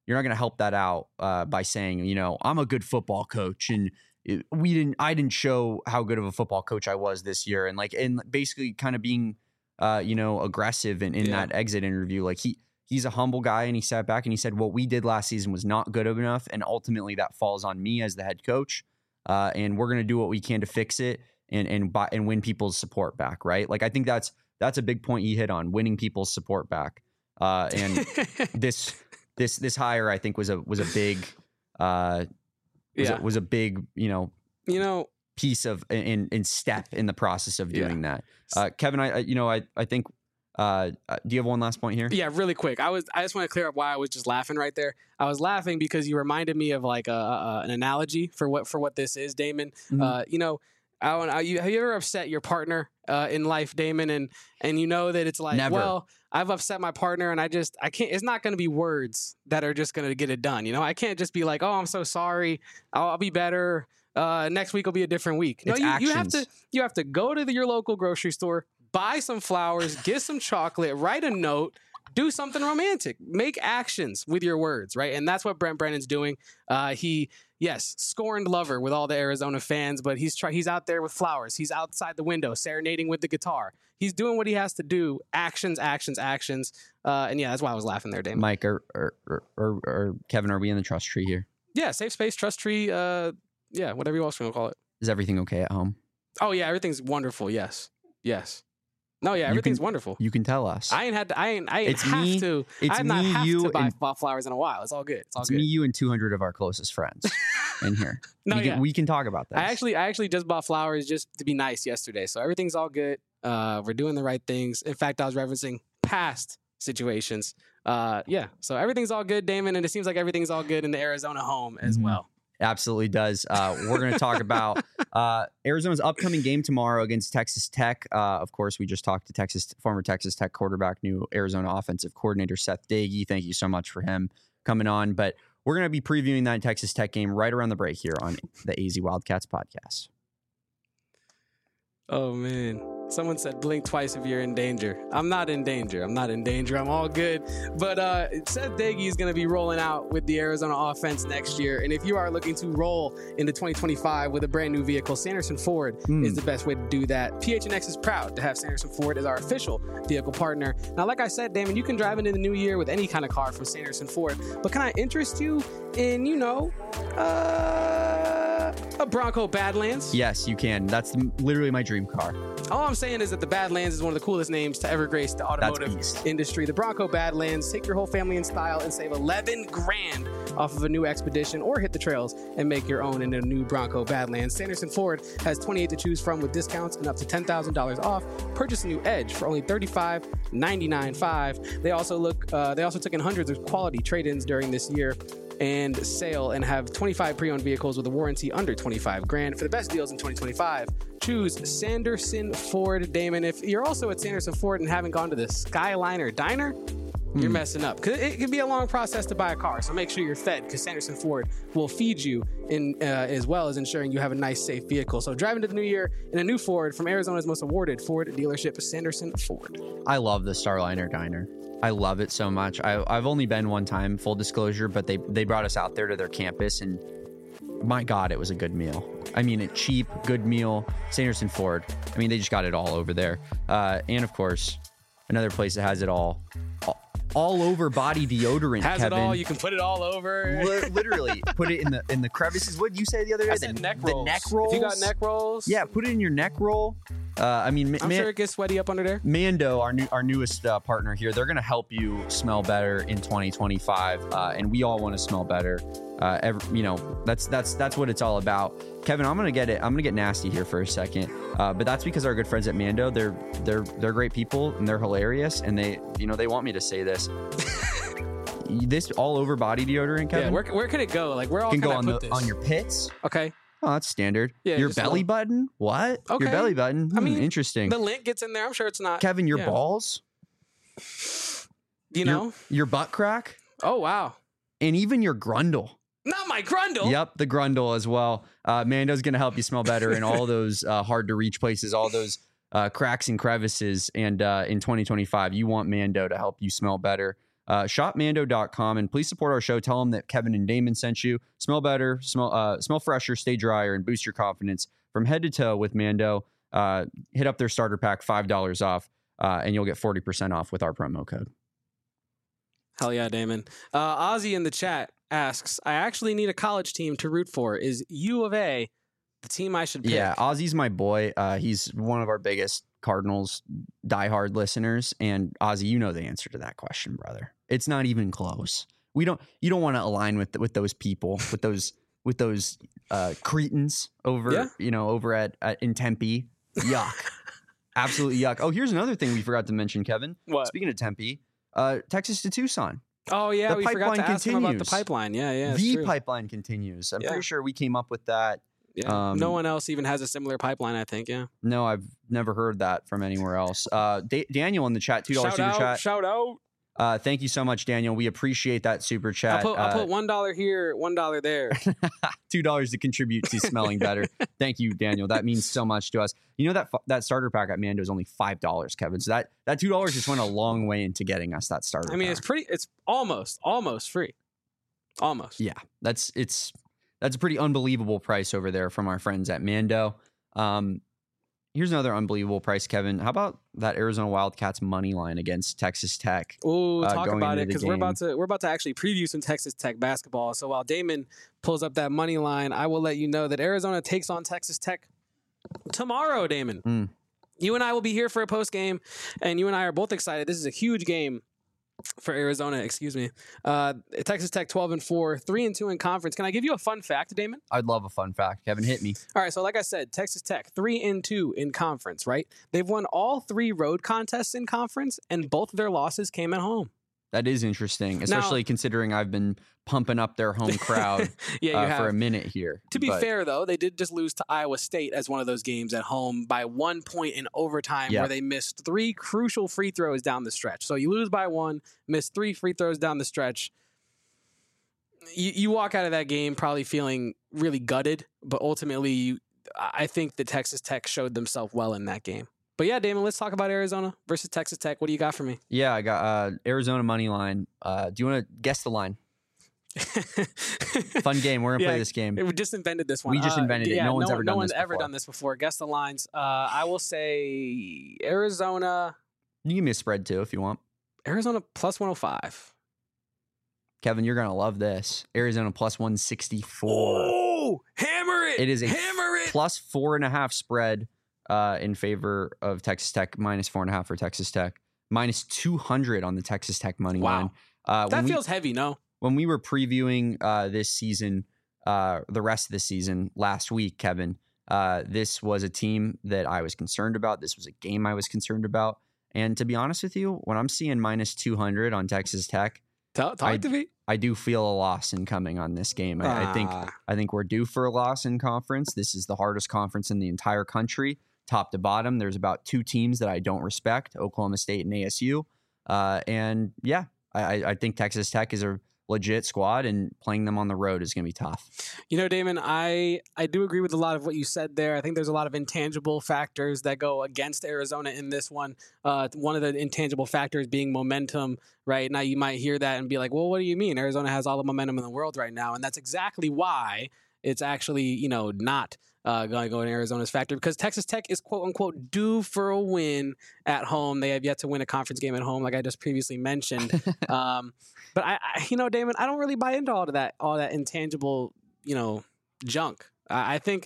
you're not going to help that out uh, by saying, you know, I'm a good football coach and it, we didn't, I didn't show how good of a football coach I was this year. And like, and basically kind of being, uh, you know, aggressive in, in yeah. that exit interview. Like he, he's a humble guy and he sat back and he said, what we did last season was not good enough. And ultimately that falls on me as the head coach. Uh, and we're going to do what we can to fix it and, and buy, and win people's support back. Right. Like, I think that's, that's a big point you hit on, winning people's support back. Uh, and this, this, this hire, I think was a, was a big, uh, was, yeah. a, was a big, you know, you know, piece of in, in step in the process of doing yeah. that. Uh, Kevin, I, you know, I, I think, uh, do you have one last point here? Yeah, really quick. I was, I just want to clear up why I was just laughing right there. I was laughing because you reminded me of like a, a an analogy for what, for what this is, Damon. Mm-hmm. Uh, you know, I want, I, you, have you ever upset your partner uh, in life, Damon? And, and you know that it's like, Never. well, I've upset my partner and I just, I can't, it's not going to be words that are just going to get it done. You know, I can't just be like, oh, I'm so sorry. I'll, I'll be better. Uh, next week will be a different week. No, it's you, actions. you have to, you have to go to the, your local grocery store, buy some flowers, get some chocolate, write a note, do something romantic, make actions with your words. Right. And that's what Brent Brennan's doing. Uh, he, yes, scorned lover with all the Arizona fans, but he's try- he's out there with flowers. He's outside the window serenading with the guitar. He's doing what he has to do. Actions, actions, actions. Uh, and yeah, that's why I was laughing there, Damon. Mike or, or, or, or, or Kevin, are we in the trust tree here? Yeah, safe space, trust tree. Uh, yeah, whatever you else want to call it. Is everything okay at home? Oh yeah, everything's wonderful. Yes, yes. No, yeah, everything's can, wonderful. You can tell us. I ain't had to. I ain't. I ain't it's have me, to. It's I've me, not have you, to buy and, flowers in a while. It's all good. It's all it's good. me, you, and two hundred of our closest friends in here. No, we, yeah. can, we can talk about that. I actually, I actually just bought flowers just to be nice yesterday. So everything's all good. Uh, we're doing the right things. In fact, I was referencing past situations. Uh, yeah. So everything's all good, Damon, and it seems like everything's all good in the Arizona home as mm-hmm. well. Absolutely does. Uh, we're going to talk about uh, Arizona's upcoming game tomorrow against Texas Tech. Uh, of course, we just talked to Texas former Texas Tech quarterback, new Arizona offensive coordinator Seth Doege. Thank you so much for him coming on. But we're going to be previewing that Texas Tech game right around the break here on the A Z Wildcats podcast. Oh, man. Someone said blink twice if you're in danger. I'm not in danger. I'm not in danger. I'm all good. But uh, Seth Doege is going to be rolling out with the Arizona offense next year. And if you are looking to roll into twenty twenty-five with a brand new vehicle, Sanderson Ford mm. is the best way to do that. P H N X is proud to have Sanderson Ford as our official vehicle partner. Now, like I said, Damon, you can drive into the new year with any kind of car from Sanderson Ford. But can I interest you in, you know, uh, a Bronco Badlands? Yes, you can. That's literally my dream car. All I'm saying is that the Badlands is one of the coolest names to ever grace the automotive industry. The Bronco Badlands. Take your whole family in style and save eleven grand off of a new Expedition, or hit the trails and make your own in a new Bronco Badlands. Sanderson Ford has twenty-eight to choose from with discounts and up to ten thousand dollars off. Purchase a new Edge for only thirty-five ninety-nine five. They also look. Uh, they also took in hundreds of quality trade-ins during this year and sale, and have twenty-five pre-owned vehicles with a warranty under twenty-five grand. For the best deals in twenty twenty-five, choose Sanderson Ford. Damon, if you're also at Sanderson Ford and haven't gone to the Skyliner Diner, you're hmm. messing up. Cause it can be a long process to buy a car, so make sure you're fed, because Sanderson Ford will feed you in uh, as well as ensuring you have a nice, safe vehicle. So drive into the new year in a new Ford from Arizona's most awarded Ford dealership, Sanderson Ford. I love the Starliner Diner. I love it so much. I, I've only been one time, full disclosure, but they, they brought us out there to their campus, and my God, it was a good meal. I mean, a cheap, good meal. Sanderson Ford. I mean, they just got it all over there. Uh, and of course, another place that has it all. all All over body deodorant. Has Kevin. it all. You can put it all over. L- literally, put it in the in the crevices. What did you say the other day? I said the neck the rolls. neck rolls. If you got neck rolls, yeah, put it in your neck roll. Uh, I mean, I'm man, sure it gets sweaty up under there. Mando, our new our newest uh, partner here, they're going to help you smell better in twenty twenty-five, uh, and we all want to smell better. Uh, every, you know, that's that's that's what it's all about. Kevin, I'm gonna get it. I'm gonna get nasty here for a second, uh, but that's because our good friends at Mando, they're they're they're great people and they're hilarious, and they you know they want me to say this. This all over body deodorant, Kevin. Yeah, where, where can it go? Like, where all can, can go I on put the this? on your pits. Okay. Oh, that's standard. Yeah, your just belly look. button? What? Okay. Your belly button? Hmm, I mean, interesting. The lint gets in there. I'm sure it's not. Kevin, your yeah. balls? You know? Your, your butt crack? Oh, wow. And even your grundle. Not my grundle. Yep, the grundle as well. Uh, Mando's going to help you smell better in all those uh, hard to reach places, all those uh, cracks and crevices. And uh, in twenty twenty-five, you want Mando to help you smell better. Uh, shop mando dot com and please support our show. Tell them that Kevin and Damon sent you. Smell better, smell uh, smell fresher, stay drier, and boost your confidence from head to toe with Mando. Uh, hit up their starter pack, five dollars off, uh, and you'll get forty percent off with our promo code. Hell yeah, Damon. Uh, Ozzy in the chat asks, I actually need a college team to root for. Is U of A the team I should pick? Yeah, Ozzy's my boy. Uh, he's one of our biggest Cardinals diehard listeners. And Ozzy, you know the answer to that question, brother. It's not even close. We don't. You don't want to align with with those people, with those with those uh, cretins over, Yeah. you know, over at, at in Tempe. Yuck, absolutely yuck. Oh, here's another thing we forgot to mention, Kevin. What? Speaking of Tempe, uh, Texas to Tucson. Oh, yeah, The we forgot to pipeline ask him about the continues. pipeline. Yeah, yeah. it's the true. pipeline continues. I'm Yeah. pretty sure we came up with that. Yeah. um, no one else even has a similar pipeline, I think. Yeah. No, I've never heard that from anywhere else. Uh, Da- Daniel in the chat, two dollars Shout super out, chat. shout out. Uh, thank you so much, Daniel. We appreciate that super chat. I'll put, I'll Uh, put one dollar here, one dollar there. two dollars to contribute to smelling better. Thank you, Daniel. That means so much to us. You know that fu- that starter pack at Mando is only five dollars, Kevin. So that that two dollars just went a long way into getting us that starter. I mean, pack. it's pretty, it's almost, almost free. Almost. Yeah, that's it's that's a pretty unbelievable price over there from our friends at Mando. Um, here's another unbelievable price, Kevin. How about that Arizona Wildcats money line against Texas Tech? Oh, uh, talk going about into it the because we're game. about to we're about to actually preview some Texas Tech basketball. So while Damon pulls up that money line, I will let you know that Arizona takes on Texas Tech tomorrow. Damon, Mm. you and I will be here for a post game, and you and I are both excited. This is a huge game for Arizona. Excuse me. Uh, Texas Tech twelve and four, three and two in conference. Can I give you a fun fact, Damon? I'd love a fun fact. Kevin, hit me. All right, so like I said, Texas Tech three and two in conference, right? They've won all three road contests in conference, and both of their losses came at home. That is interesting, especially considering I've been pumping up their home crowd Yeah, you uh, have. for a minute here. To be But fair, though, they did just lose to Iowa State as one of those games at home by one point in overtime, Yeah. where they missed three crucial free throws down the stretch. So you lose by one, miss three free throws down the stretch. You, you walk out of that game probably feeling really gutted, but ultimately, you, I think the Texas Tech showed themselves well in that game. But yeah, Damon, let's talk about Arizona versus Texas Tech. What do you got for me? yeah, I got uh, Arizona money line. Uh, do you want to guess the line? Fun game. We're gonna Yeah, play this game. We just invented this one. We just Uh, invented it. yeah, No one's ever no done one's this ever before. done this before. Guess the lines. Uh, I will say Arizona. You can give me a spread too if you want. Arizona plus one hundred five. Kevin, you're gonna love this. Arizona plus one sixty-four. Oh, hammer it! It is a hammer it. Plus four and a half spread uh, in favor of Texas Tech. Minus four and a half for Texas Tech. Minus two hundred on the Texas Tech money Wow. line. Uh, That when we- feels heavy. No. when we were previewing uh, this season, uh, the rest of the season last week, Kevin, uh, this was a team that I was concerned about. This was a game I was concerned about. And to be honest with you, when I'm seeing minus two hundred on Texas Tech, Talk, talk I- to me. I do feel a loss in coming on this game. I, I think Ah. I think we're due for a loss in conference. This is the hardest conference in the entire country, top to bottom. There's about two teams that I don't respect: Oklahoma State and A S U. Uh, and yeah, I, I think Texas Tech is a legit squad, and playing them on the road is going to be tough. You know, Damon, I, I do agree with a lot of what you said there. I think there's a lot of intangible factors that go against Arizona in this one. Uh, one of the intangible factors being momentum, right? Now, you might hear that and be like, well, what do you mean? Arizona has all the momentum in the world right now. And that's exactly why it's actually, you know, not uh, going to go in Arizona's factor, because Texas Tech is quote unquote due for a win at home. They have yet to win a conference game at home, like I just previously mentioned. um, but I, I, you know, Damon, I don't really buy into all of that, all that intangible, you know, junk. I, I think,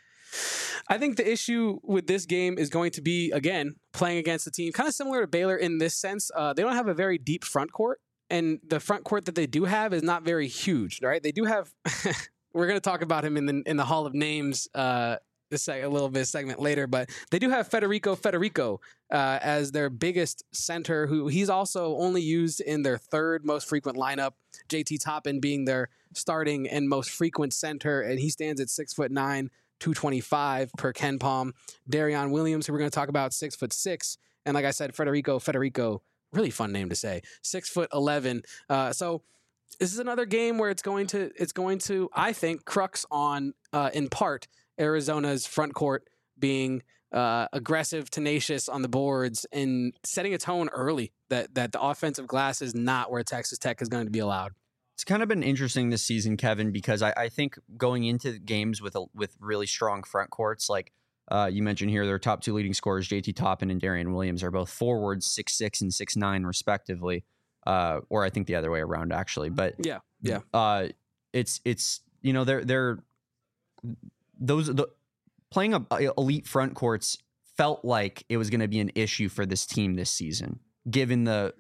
I think the issue with this game is going to be, again, playing against a team kind of similar to Baylor in this sense. Uh, they don't have a very deep front court, and the front court that they do have is not very huge, right? They do have. We're going to talk about him in the in the Hall of Names uh, this a little bit segment later, but they do have Federico Federico uh, as their biggest center, who he's also only used in their third most frequent lineup. J T Toppin being their starting and most frequent center, and he stands at six foot nine, two twenty-five per Ken Palm. Darion Williams, who we're going to talk about, six foot six, and like I said, Federico Federico, really fun name to say, six foot eleven. Uh, so. This is another game where it's going to, it's going to, I think, crux on, uh, in part, Arizona's front court being uh, aggressive, tenacious on the boards, and setting a tone early that that the offensive glass is not where Texas Tech is going to be allowed. It's kind of been interesting this season, Kevin, because I, I think going into games with a, with really strong front courts, like uh, you mentioned here, their top two leading scorers, J T Toppin and Darian Williams, are both forwards, six six and six nine respectively, uh, or I think the other way around actually. But yeah, yeah, uh, it's it's you know they're they're those the playing a, a elite front courts felt like it was going to be an issue for this team this season, given the.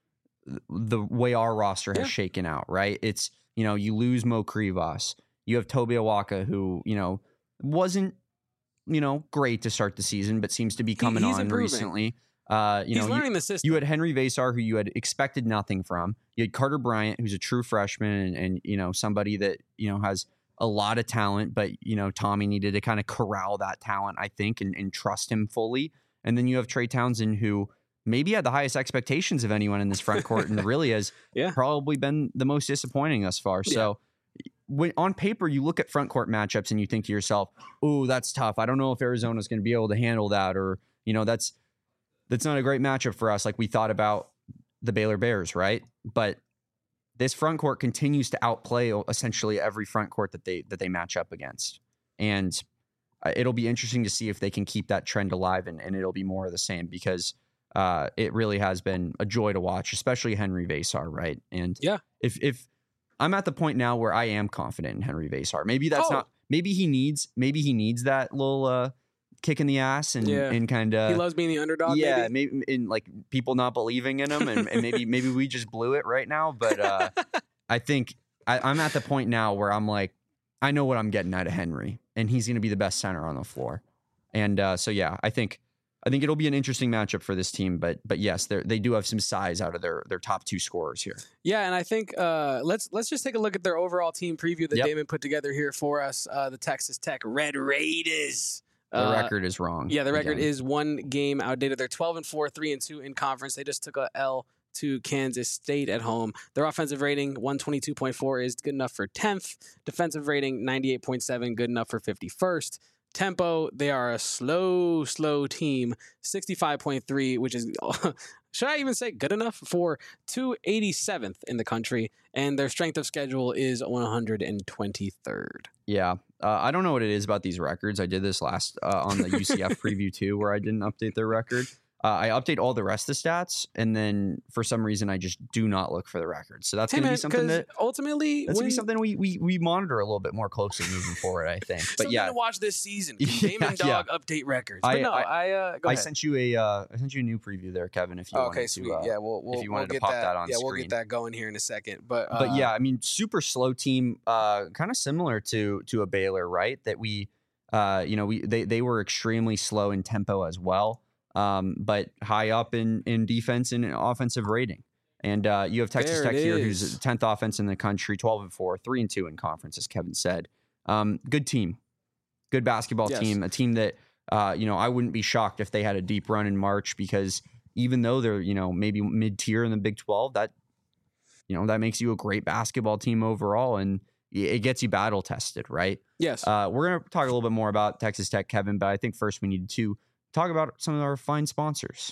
the way our roster has yeah. shaken out, right? It's, you know, you lose Mo Krivas. You have Toby Awaka, who, you know, wasn't, you know, great to start the season, but seems to be coming he, on improving. recently. Uh, you he's know, learning you, the system. You had Henry Vasar, who you had expected nothing from. You had Carter Bryant, who's a true freshman and, and, you know, somebody that, you know, has a lot of talent, but, you know, Tommy needed to kind of corral that talent, I think, and, and trust him fully. And then you have Trey Townsend, who maybe had the highest expectations of anyone in this front court and really has yeah. probably been the most disappointing thus far. Yeah. So when on paper, you look at front court matchups and you think to yourself, oh, that's tough. I don't know if Arizona's going to be able to handle that, or, you know, that's, that's not a great matchup for us. Like we thought about the Baylor Bears, right? But this front court continues to outplay essentially every front court that they, that they match up against. And it'll be interesting to see if they can keep that trend alive, and, and it'll be more of the same, because Uh, it really has been a joy to watch, especially Henry Vasar, right? And yeah, if if I'm at the point now where I am confident in Henry Vasar, maybe that's oh. not. Maybe he needs. Maybe he needs that little uh, kick in the ass and yeah. and kind of. He loves being the underdog. Yeah, maybe, maybe in like people not believing in him, and, and maybe maybe we just blew it right now. But uh, I think I, I'm at the point now where I'm like, I know what I'm getting out of Henry, and he's going to be the best center on the floor. And uh, so yeah, I think. I think it'll be an interesting matchup for this team, but but yes, they they do have some size out of their their top two scorers here. Yeah, and I think uh, let's let's just take a look at their overall team preview that yep. Damon put together here for us. Uh, the Texas Tech Red Raiders. The uh, record is wrong. Yeah, the record again. is one game outdated. They're twelve and four, three and two in conference. They just took a L to Kansas State at home. Their offensive rating one twenty-two point four is good enough for tenth. Defensive rating ninety-eight point seven, good enough for fifty-first. Tempo, they are a slow, slow team, sixty-five point three, which is, should I even say good enough, for two hundred eighty-seventh in the country, and their strength of schedule is one hundred twenty-third. Yeah, uh, I don't know what it is about these records. I did this last uh, on the U C F preview too, where I didn't update their record. Uh, I update all the rest of the stats, and then for some reason, I just do not look for the records. So that's hey going to be something that ultimately that's going to be something we, we we monitor a little bit more closely moving forward, I think. But something yeah, to watch this season. Can yeah, Damon Dog yeah. update records. I, but no, I, I uh, go I ahead. sent you a uh, I sent you a new preview there, Kevin. If you okay, wanted sweet. to, uh, yeah, we'll, we'll if you wanted we'll to pop that, that on yeah, screen. we'll get that going here in a second. But uh, but yeah, I mean, super slow team, uh, kind of similar to to a Baylor, right? That we, uh, you know, we they they were extremely slow in tempo as well. Um, but high up in, in defense and offensive rating. And uh, you have Texas there Tech here, is. who's tenth offense in the country, twelve and four, three and two in conference, as Kevin said. Um, good team, good basketball yes. team, a team that, uh, you know, I wouldn't be shocked if they had a deep run in March, because even though they're, you know, maybe mid tier in the Big twelve, that, you know, that makes you a great basketball team overall. And it gets you battle tested, right? Yes. Uh, we're going to talk a little bit more about Texas Tech, Kevin, but I think first we need to talk about some of our fine sponsors.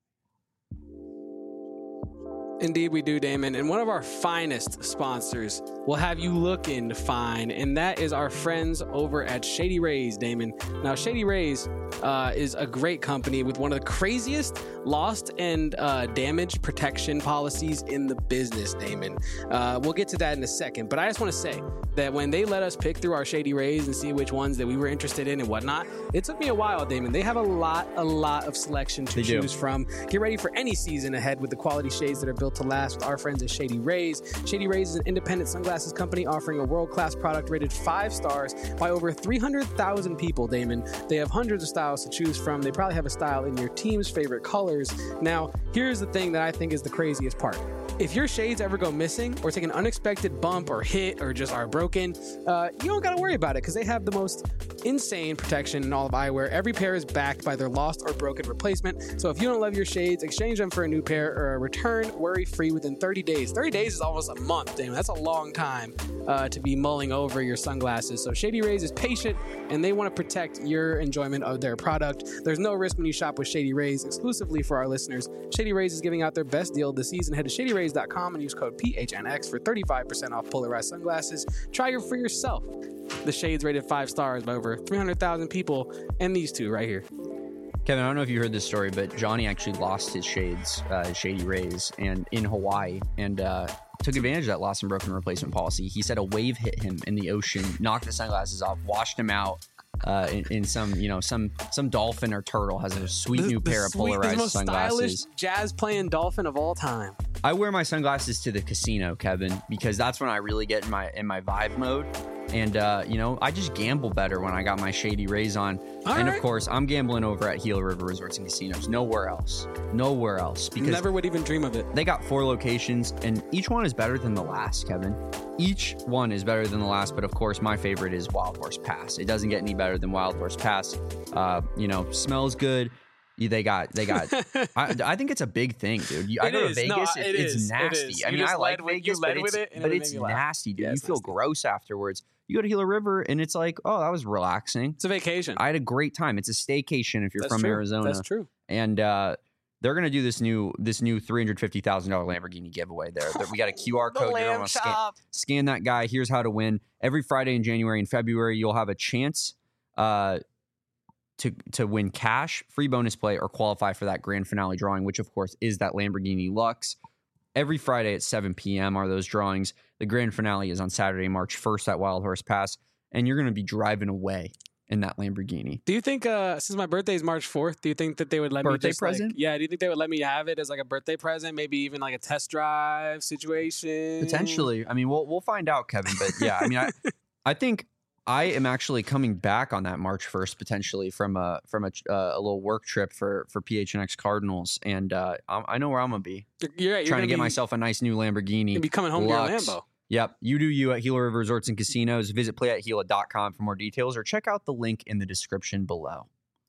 Indeed, we do, Damon. And one of our finest sponsors will have you looking fine, and that is our friends over at Shady Rays, Damon. Now, Shady Rays uh, is a great company with one of the craziest lost and uh, damage protection policies in the business, Damon. Uh, we'll get to that in a second, but I just want to say that when they let us pick through our Shady Rays and see which ones that we were interested in and whatnot, it took me a while, Damon. They have a lot, a lot of selection to they choose do. from. Get ready for any season ahead with the quality shades that are built to last with our friends at Shady Rays. Shady Rays is an independent sunglasses company offering a world-class product rated five stars by over three hundred thousand people, Damon. They have hundreds of styles to choose from. They probably have a style in your team's favorite colors. Now, here's the thing that I think is the craziest part. if your shades ever go missing or take an unexpected bump or hit or just are broken, uh, you don't got to worry about it because they have the most insane protection in all of eyewear. Every pair is backed by their lost or broken replacement. So if you don't love your shades, exchange them for a new pair or a return worry-free within thirty days. thirty days is almost a month, damn. That's a long time uh, to be mulling over your sunglasses. So Shady Rays is patient and they want to protect your enjoyment of their product. There's no risk when you shop with Shady Rays. Exclusively for our listeners, Shady Rays is giving out their best deal this season. Head to shady rays dot com and use code P H N X for thirty-five percent off polarized sunglasses. Try your for yourself. The shades rated five stars by over three hundred thousand people, and these two right here. Kevin, I don't know if you heard this story, but Johnny actually lost his shades, uh, his Shady Rays, and in Hawaii, and uh, took advantage of that lost and broken replacement policy. He said a wave hit him in the ocean, knocked the sunglasses off, washed him out. Uh, in, in some, you know, some some dolphin or turtle has a sweet The- new the pair of sweet- the polarized most sunglasses. stylish jazz playing dolphin of all time. I wear my sunglasses to the casino, Kevin, because that's when I really get in my in my vibe mode. And uh, you know, I just gamble better when I got my Shady Rays on. All and right. of course, I'm gambling over at Gila River Resorts and Casinos. Nowhere else. Nowhere else. Because Never would even dream of it. they got four locations, and each one is better than the last, Kevin. Each one is better than the last, but of course, my favorite is Wild Horse Pass. It doesn't get any better than Wild Horse Pass. Uh, you know, smells good. They got, they got. I, I think it's a big thing, dude. You, I It go to is. Vegas, No, it- it it's is. It nasty. is. I You mean, just I like led with- you Vegas, led but with it's, it, and but it it's made me laugh. nasty, dude. Yeah, you it's feel nasty. gross afterwards. You go to Gila River, and it's like, oh, that was relaxing. It's a vacation. I had a great time. It's a staycation if you're That's from true. Arizona. That's true. And uh, they're gonna do this new this new three hundred fifty thousand dollar Lamborghini giveaway. There, There- we got a Q R code. You're gonna scan, scan that guy. Here's how to win. Every Friday in January and February, you'll have a chance uh, to to win cash, free bonus play, or qualify for that grand finale drawing, which of course is that Lamborghini Lux. Every Friday at seven p.m. are those drawings. The grand finale is on Saturday, March first at Wild Horse Pass, and you're gonna be driving away in that Lamborghini. Do you think, uh, since my birthday is March fourth, do you think that they would let Birthday me just like- present? yeah, do you think they would let me have it as like a birthday present? Maybe even like a test drive situation? Potentially. I mean, we'll we'll find out, Kevin. But yeah, I mean, I, I think I am actually coming back on that March first potentially from a from a, uh, a little work trip for for P H N X Cardinals, and uh, I, I know where I'm gonna be. You're, you're, right, you're Trying to gonna get be, myself a nice new Lamborghini. You'll be coming home Lux. to your Lambo. Yep. You do you at Gila River Resorts and Casinos. Visit play at gila dot com for more details, or check out the link in the description below.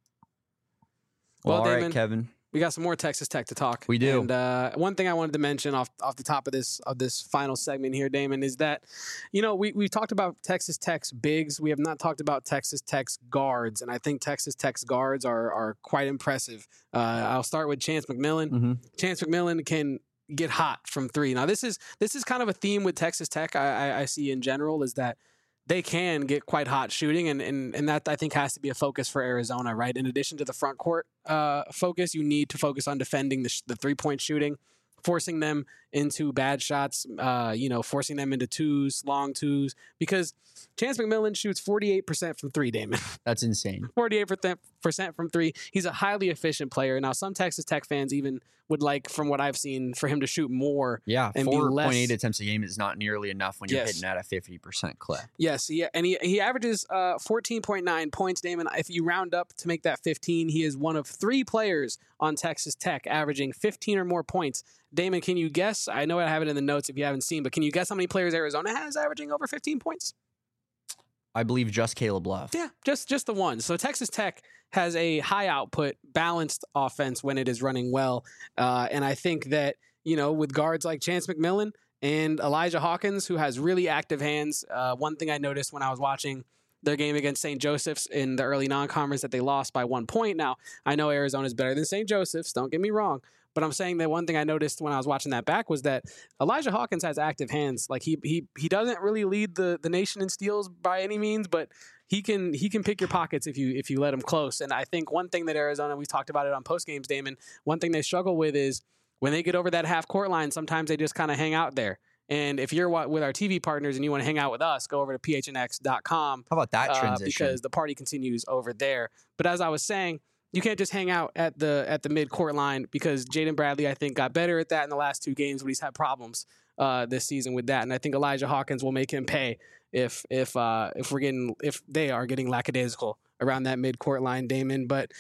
Well, Well, all right, Damon, Kevin. We got some more Texas Tech to talk. We do. And uh, one thing I wanted to mention off off the top of this of this final segment here, Damon, is that, you know, we we've talked about Texas Tech's bigs. We have not talked about Texas Tech's guards, and I think Texas Tech's guards are are quite impressive. Uh, I'll start with Chance McMillan. Mm-hmm. Chance McMillan can get hot from three. Now, this is this is kind of a theme with Texas Tech I, I, I see in general, is that they can get quite hot shooting, and, and and that I think has to be a focus for Arizona, right? In addition to the front court uh, focus, you need to focus on defending the, sh- the three point shooting, forcing them into bad shots, uh, you know, forcing them into twos, long twos, because Chance McMillan shoots forty-eight percent from three, Damon. That's insane. forty-eight percent from three. He's a highly efficient player. Now, some Texas Tech fans even would like, from what I've seen, for him to shoot more. Yeah, And be four less- point eight attempts a game is not nearly enough when you're Yes. hitting at a fifty percent clip. Yes, yeah, and he he averages uh, fourteen point nine points, Damon. If you round up to make that fifteen, he is one of three players on Texas Tech averaging fifteen or more points. Damon, can you guess? I know I have it in the notes if you haven't seen, but can you guess how many players Arizona has averaging over fifteen points? I believe just Caleb Love. Yeah, just just the one. So Texas Tech has a high output, balanced offense when it is running well, uh, and I think that, you know, with guards like Chance McMillan and Elijah Hawkins, who has really active hands. Uh, one thing I noticed when I was watching their game against Saint Joseph's in the early non-conference, that they lost by one point. Now, I know Arizona is better than Saint Joseph's. Don't get me wrong. But I'm saying that one thing I noticed when I was watching that back was that Elijah Hawkins has active hands. Like he he he doesn't really lead the, the nation in steals by any means, but he can he can pick your pockets if you if you let him close. And I think one thing that Arizona, we talked about it on post games, Damon, one thing they struggle with is when they get over that half court line, sometimes they just kind of hang out there. And if you're wa- with our T V partners and you want to hang out with us, go over to P H N X dot com. How about that uh, transition? because the party continues over there. But as I was saying, you can't just hang out at the at the mid court line, because Jaden Bradley, I think, got better at that in the last two games, but he's had problems uh, this season with that. And I think Elijah Hawkins will make him pay if if uh, if we're getting if they are getting lackadaisical around that mid court line, Damon. But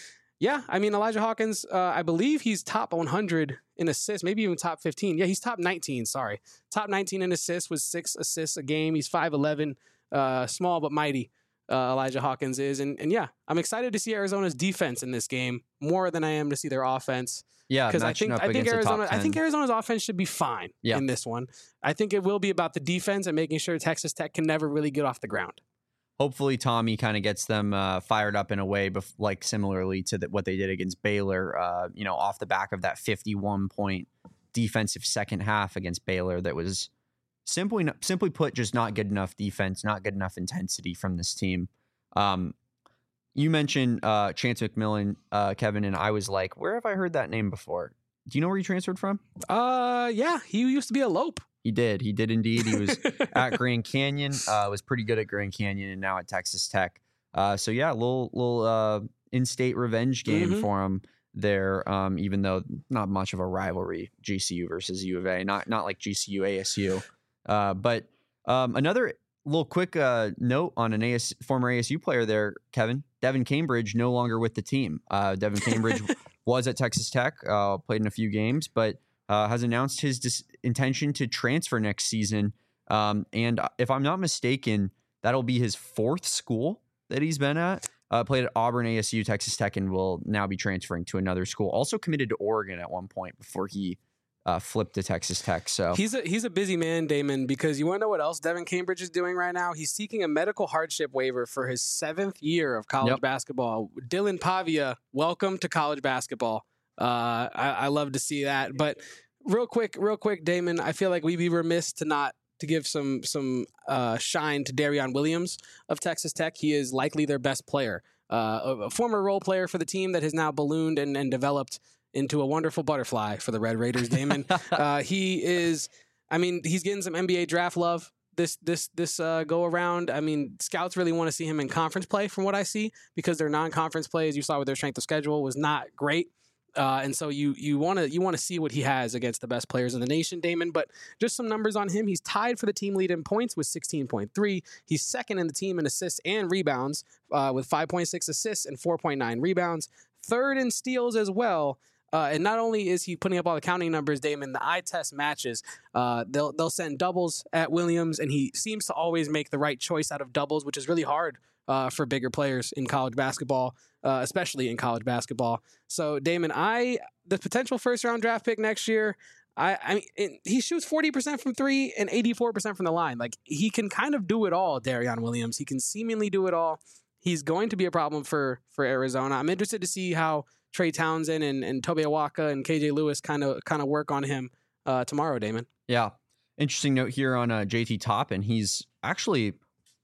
Yeah, I mean, Elijah Hawkins, uh, I believe he's top one hundred in assists, maybe even top fifteen. Yeah, he's top nineteen, sorry. Top nineteen in assists with six assists a game. He's five eleven, uh, small but mighty, uh, Elijah Hawkins is. And, and yeah, I'm excited to see Arizona's defense in this game more than I am to see their offense. Yeah, because I think I think Arizona I think Arizona's offense should be fine yeah. in this one. I think it will be about the defense and making sure Texas Tech can never really get off the ground. Hopefully Tommy kind of gets them uh, fired up in a way, bef- like similarly to the, what they did against Baylor, uh, you know, off the back of that fifty-one point defensive second half against Baylor that was simply simply put, just not good enough defense, not good enough intensity from this team. Um, you mentioned uh, Chance McMillan, uh, Kevin, and I was like, where have I heard that name before? Do you know where he transferred from? Uh, yeah, he used to be a Lope. He did. He did indeed. He was at Grand Canyon, uh, was pretty good at Grand Canyon, and now at Texas Tech. Uh, so, yeah, a little, little uh, in-state revenge game mm-hmm. for him there, um, even though not much of a rivalry, G C U versus U of A, not not like G C U, A S U. Uh, but um, another little quick uh, note on an A S, former A S U player there, Kevin. Devin Cambridge no longer with the team. Uh, Devin Cambridge was at Texas Tech, uh, played in a few games, but Uh, has announced his dis- intention to transfer next season. Um, and if I'm not mistaken, that'll be his fourth school that he's been at. Uh, played at Auburn, A S U, Texas Tech, and will now be transferring to another school. Also committed to Oregon at one point before he uh, flipped to Texas Tech. So he's a he's a busy man, Damon, because you want to know what else Devin Cambridge is doing right now? He's seeking a medical hardship waiver for his seventh year of college yep. basketball. Dylan Pavia, welcome to college basketball. Uh, I, I love to see that. But real quick, real quick, Damon, I feel like we'd be remiss to not to give some some uh, shine to Darion Williams of Texas Tech. He is likely their best player, uh, a former role player for the team that has now ballooned and, and developed into a wonderful butterfly for the Red Raiders, Damon. uh, he is, I mean, he's getting some N B A draft love this this this uh, go around. I mean, scouts really want to see him in conference play from what I see, because their non-conference play, as you saw with their strength of schedule, was not great. Uh, and so you you want to you want to see what he has against the best players in the nation, Damon. But just some numbers on him. He's tied for the team lead in points with sixteen point three. He's second in the team in assists and rebounds uh, with five point six assists and four point nine rebounds. Third in steals as well. Uh, and not only is he putting up all the counting numbers, Damon, the eye test matches. Uh, they'll they'll send doubles at Williams, and he seems to always make the right choice out of doubles, which is really hard uh, for bigger players in college basketball. Uh, especially in college basketball. So, Damon, I the potential first round draft pick next year. I, I mean, it, he shoots forty percent from three and eighty-four percent from the line. Like, he can kind of do it all, Darion Williams. He can seemingly do it all. He's going to be a problem for for Arizona. I'm interested to see how Trey Townsend and, and Tobe Awaka and K J Lewis kind of kind of work on him uh, tomorrow, Damon. Yeah. Interesting note here on uh, J T Toppin. He's actually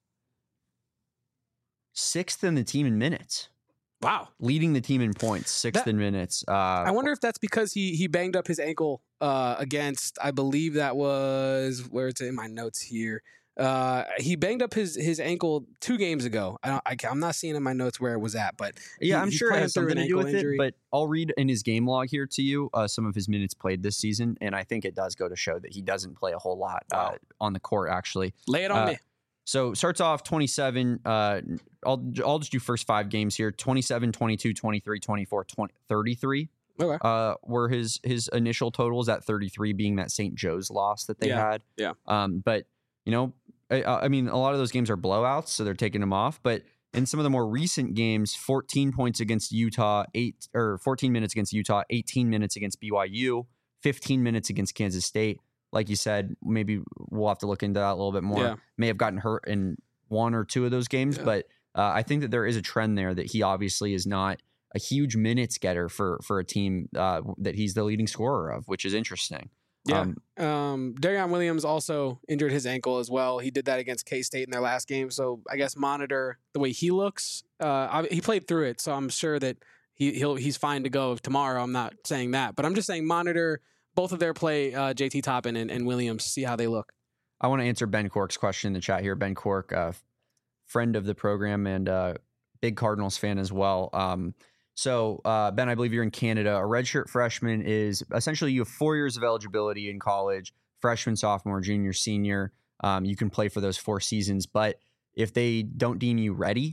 sixth in the team in minutes. Wow. Leading the team in points, sixth that, in minutes. Uh, I wonder if that's because he he banged up his ankle uh, against, I believe that was, where it's in my notes here. Uh, he banged up his, his ankle two games ago. I don't, I, I'm not seeing in my notes where it was at, but yeah, he, I'm sure it has something to do with injury. it. But I'll read in his game log here to you uh, some of his minutes played this season, and I think it does go to show that he doesn't play a whole lot uh, wow. on the court. Actually, lay it on uh, me. So starts off twenty-seven. Uh, I'll I'll just do first five games here. twenty-seven, twenty-two, twenty-three, twenty-four, twenty, thirty-three. Okay. Uh, were his his initial totals, at thirty-three being that Saint Joe's loss that they yeah. had. Yeah. Um, but you know, I, I mean, a lot of those games are blowouts, so they're taking them off. But in some of the more recent games, fourteen points against Utah, eight or fourteen minutes against Utah, eighteen minutes against B Y U, fifteen minutes against Kansas State. Like you said, maybe we'll have to look into that a little bit more. Yeah. May have gotten hurt in one or two of those games, yeah. but uh, I think that there is a trend there that he obviously is not a huge minutes getter for for a team uh, that he's the leading scorer of, which is interesting. Yeah. Um, um, Darion Williams also injured his ankle as well. He did that against K-State in their last game. So I guess monitor the way he looks. Uh, he played through it, so I'm sure that he he'll he's fine to go tomorrow. I'm not saying that, but I'm just saying monitor both of their play, uh, J T Toppin and, and Williams, see how they look. I want to answer Ben Cork's question in the chat here. Ben Cork, uh, friend of the program and uh, big Cardinals fan as well. Um, so, uh, Ben, I believe you're in Canada. A redshirt freshman is essentially you have four years of eligibility in college, freshman, sophomore, junior, senior. Um, you can play for those four seasons. But if they don't deem you ready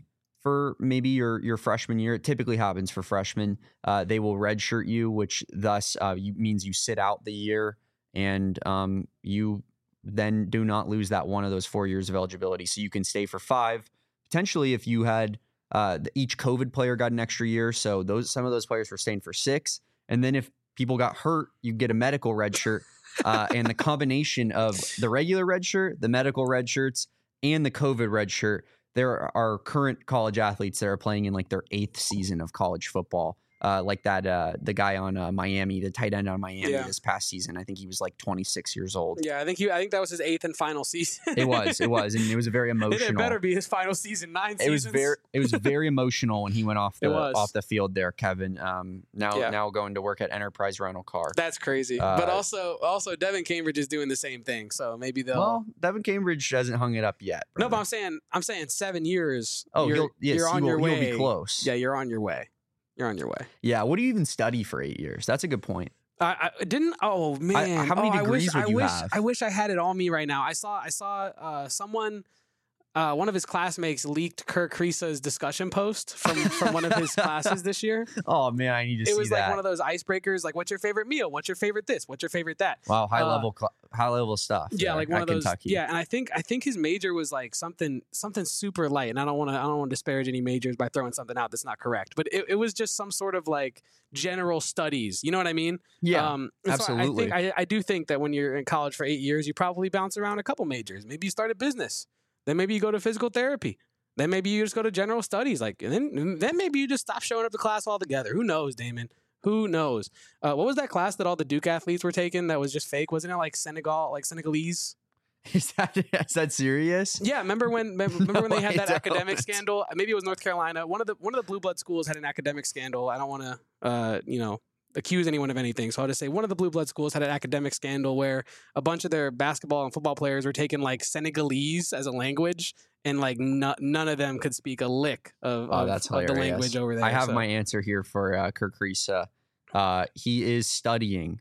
for maybe your your freshman year. It typically happens for freshmen. Uh, they will redshirt you, which thus uh, you, means you sit out the year, and um, you then do not lose that one of those four years of eligibility. So you can stay for five. Potentially, if you had uh, each COVID player got an extra year, so those some of those players were staying for six. And then if people got hurt, you get a medical redshirt, uh, and the combination of the regular redshirt, the medical redshirts, and the COVID redshirt. There are current college athletes that are playing in like their eighth season of college football. Uh, like that, uh, the guy on uh, Miami, the tight end on Miami Yeah. this past season. I think he was like twenty-six years old. Yeah, I think he. I think that was his eighth and final season. It was, it was, and it was a very emotional. It better be his final season. Nine It seasons. was very, it was very emotional when he went off It the was. off the field there, Kevin. Um, now, Yeah. now going to work at Enterprise Rental Car. That's crazy. Uh, but also, also Devin Cambridge is doing the same thing. So maybe they'll. Well, Devin Cambridge hasn't hung it up yet. no, but brother. I'm saying, I'm saying seven years. oh, you're, he'll, yes, you're he on will, your way. he'll be close. Yeah, you're on your way. You're on your way. yeah. What do you even study for eight years? That's a good point. I, I didn't. Oh man, how many oh, I degrees wish, would I you wish, have? I wish I had it on me right now. I saw, I saw uh, someone. Uh, one of his classmates leaked Kirk Krisa's discussion post from, from one of his classes this year. Oh man, I need to It see was that. like one of those icebreakers, like, what's your favorite meal? What's your favorite this? What's your favorite that? Wow, high Uh, level, cl- high level stuff. Yeah, there like one at of those. Kentucky. Yeah, and I think I think his major was like something something super light, and I don't want to I don't want to disparage any majors by throwing something out that's not correct, but it, it was just some sort of like general studies. You know what I mean? yeah, Um, and so absolutely. I think I, I do think that when you're in college for eight years, you probably bounce around a couple majors. Maybe you start a business, then maybe you go to physical therapy, then maybe you just go to general studies. Like, and then then maybe you just stop showing up to class altogether. Who knows, Damon? Who knows? Uh, what was that class that all the Duke athletes were taking that was just fake? Wasn't it like Senegal, like Senegalese? Is that is that serious? Yeah, remember when remember when they had No, I that academic don't. scandal? Maybe it was North Carolina. One of the one of the blue blood schools had an academic scandal. I don't want to, uh, you know, accuse anyone of anything. So I'll just say one of the blue blood schools had an academic scandal where a bunch of their basketball and football players were taking like Senegalese as a language, and like no, none of them could speak a lick of, Oh, of, that's of the hilarious. language over there. I have So- my answer here for uh, Kirk Risa. Uh, he is studying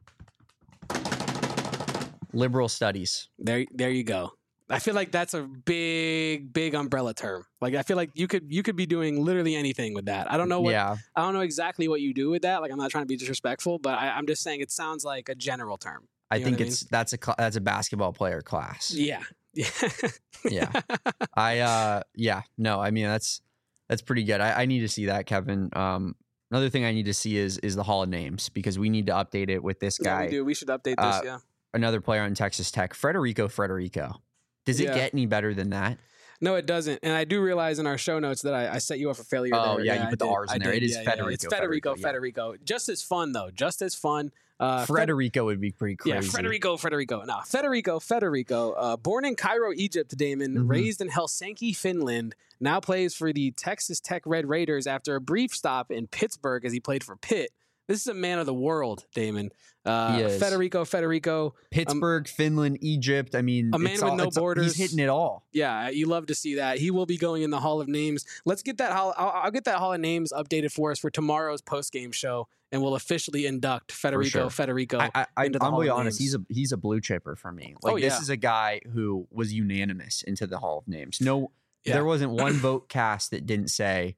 liberal studies. There, there you go. I feel like that's a big, big umbrella term. Like I feel like you could you could be doing literally anything with that. I don't know what yeah, I don't know exactly what you do with that. Like I'm not trying to be disrespectful, but I, I'm just saying it sounds like a general term. I You know think what I it's that's a cl- that's a basketball player class. Yeah, yeah, Yeah. I uh yeah no I mean that's that's pretty good. I, I need to see that, Kevin. Um, another thing I need to see is is the Hall of Names, because we need to update it with this Yeah, guy. we do. We should update this. Uh, yeah. Another player on Texas Tech, Federico Federico. Does it Yeah. get any better than that? No, it doesn't. And I do realize in our show notes that I, I set you up for failure. Oh, there. yeah, you I put the did. R's in I there. did. It is Yeah, yeah, Federico, It's Federico. Federico, Federico. Just as fun though. Just as fun. Uh, Fed- Federico would be pretty crazy. Yeah, Federico, Federico. No, Federico, Federico. Uh, born in Cairo, Egypt, Damon, Mhm. raised in Helsinki, Finland, now plays for the Texas Tech Red Raiders after a brief stop in Pittsburgh as he played for Pitt. This is a man of the world, Damon. Uh, He is. Federico, Federico. Pittsburgh, Finland, Egypt. I mean, A man it's with all- no it's- borders. He's hitting it all. Yeah, you love to see that. He will be going in the Hall of Names. Let's get that Hall. I'll, I'll get that Hall of Names updated for us for tomorrow's post game show, and we'll officially induct Federico, sure. Federico. I, I, I, into the I'm Hall gonna be of honest. Names. He's a he's a blue chipper for me. Like Oh, this yeah. is a guy who was unanimous into the Hall of Names. No, Yeah. there wasn't one vote cast that didn't say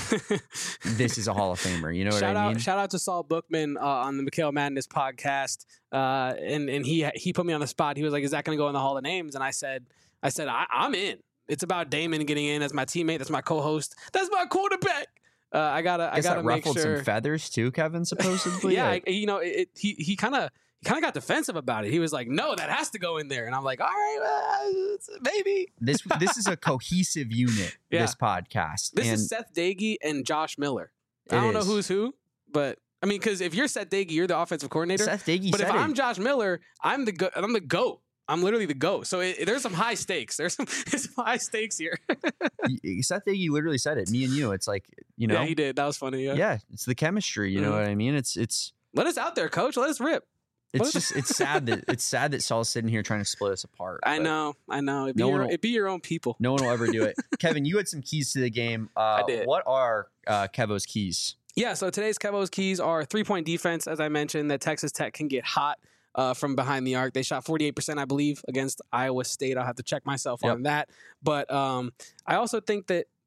this is a Hall of Famer. You know what shout I out, mean? shout out to Saul Bookman uh, on the Mikhail Madness podcast, uh, and and he he put me on the spot. He was like, "Is that going to go in the Hall of Names?" And I said, "I said I, I'm in. It's about Damon getting in as my teammate. That's my co-host. That's my quarterback. Uh, I gotta I Guess gotta that make ruffled sure. some feathers too, Kevin. Supposedly, yeah, Like, I, you know, it, it, he he kind of he kind of got defensive about it. He was like, "No, that has to go in there." And I'm like, "All right, uh, maybe." this this is a cohesive unit. Yeah. This podcast. This and is Seth Dagey and Josh Miller. I It don't know is. who's who, but I mean, because if you're Seth Dagey, you're the offensive coordinator. Seth Dagey But if said I'm it. Josh Miller, I'm the go- I'm the goat. I'm literally the goat. So it, there's some high stakes. There's some, there's some high stakes here. Y- Seth Dagey literally said it. Me and you. It's like you know. Yeah, he did. That was funny. Yeah. Yeah, it's the chemistry. You know Mhm. what I mean? It's it's Let us out there, coach. Let us rip. it's just it's sad that it's sad that Saul's sitting here trying to split us apart. I but know. I know. It'd be, No your, one will- it'd be your own people. No one will ever do it. Kevin, you had some keys to the game. Uh, I did. What are uh, Kevo's keys? Yeah, so today's Kevo's keys are three-point defense, as I mentioned, that Texas Tech can get hot uh, from behind the arc. They shot forty-eight percent, I believe, against Iowa State. I'll have to check myself Yep. on that. But um, I also think that,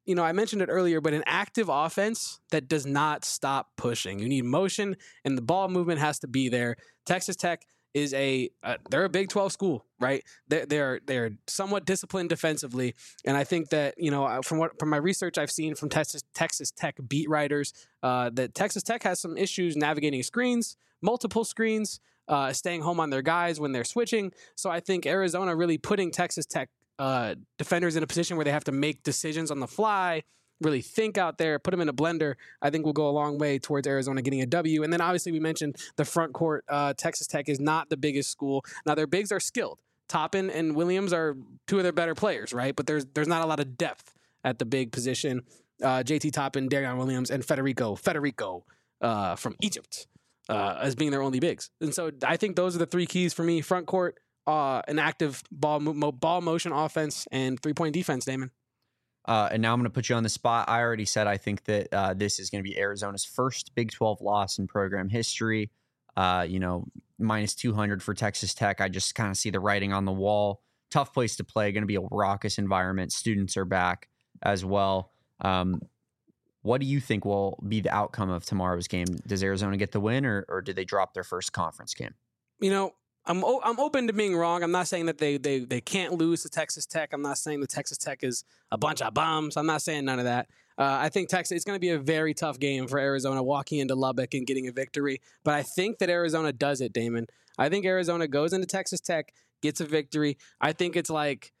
you know, I mentioned it earlier, but an active offense that does not stop pushing. You need motion, and the ball movement has to be there. Texas Tech is a uh, they're a Big twelve school, right? They're they're they're somewhat disciplined defensively, and I think that, you know, from what from my research I've seen from Texas Texas Tech beat writers, uh, that Texas Tech has some issues navigating screens, multiple screens, uh, staying home on their guys when they're switching. So I think Arizona really putting Texas Tech uh, defenders in a position where they have to make decisions on the fly, really think out there, put them in a blender, I think will go a long way towards Arizona getting a W. And then obviously we mentioned the front court. Uh, Texas Tech is not the biggest school. Now their bigs are skilled. Toppin and Williams are two of their better players, right? But there's there's not a lot of depth at the big position. Uh, J T Toppin, Darion Williams, and Federico Federico uh, from Egypt uh, as being their only bigs. And so I think those are the three keys for me: front court, uh, an active ball mo- ball motion offense, and three point defense. Damon. Uh, and now I'm going to put you on the spot. I already said I think that uh, this is going to be Arizona's first Big twelve loss in program history. Uh, you know, minus two hundred for Texas Tech. I just kind of see the writing on the wall. Tough place to play. Going to be a raucous environment. Students are back as well. Um, what do you think will be the outcome of tomorrow's game? Does Arizona get the win, or or do they drop their first conference game? You know, I'm o- I'm open to being wrong. I'm not saying that they they they can't lose to Texas Tech. I'm not saying that Texas Tech is a bunch of bums. I'm not saying none of that. Uh, I think Texas, it's going to be a very tough game for Arizona walking into Lubbock and getting a victory. But I think that Arizona does it, Damon. I think Arizona goes into Texas Tech, gets a victory. I think it's like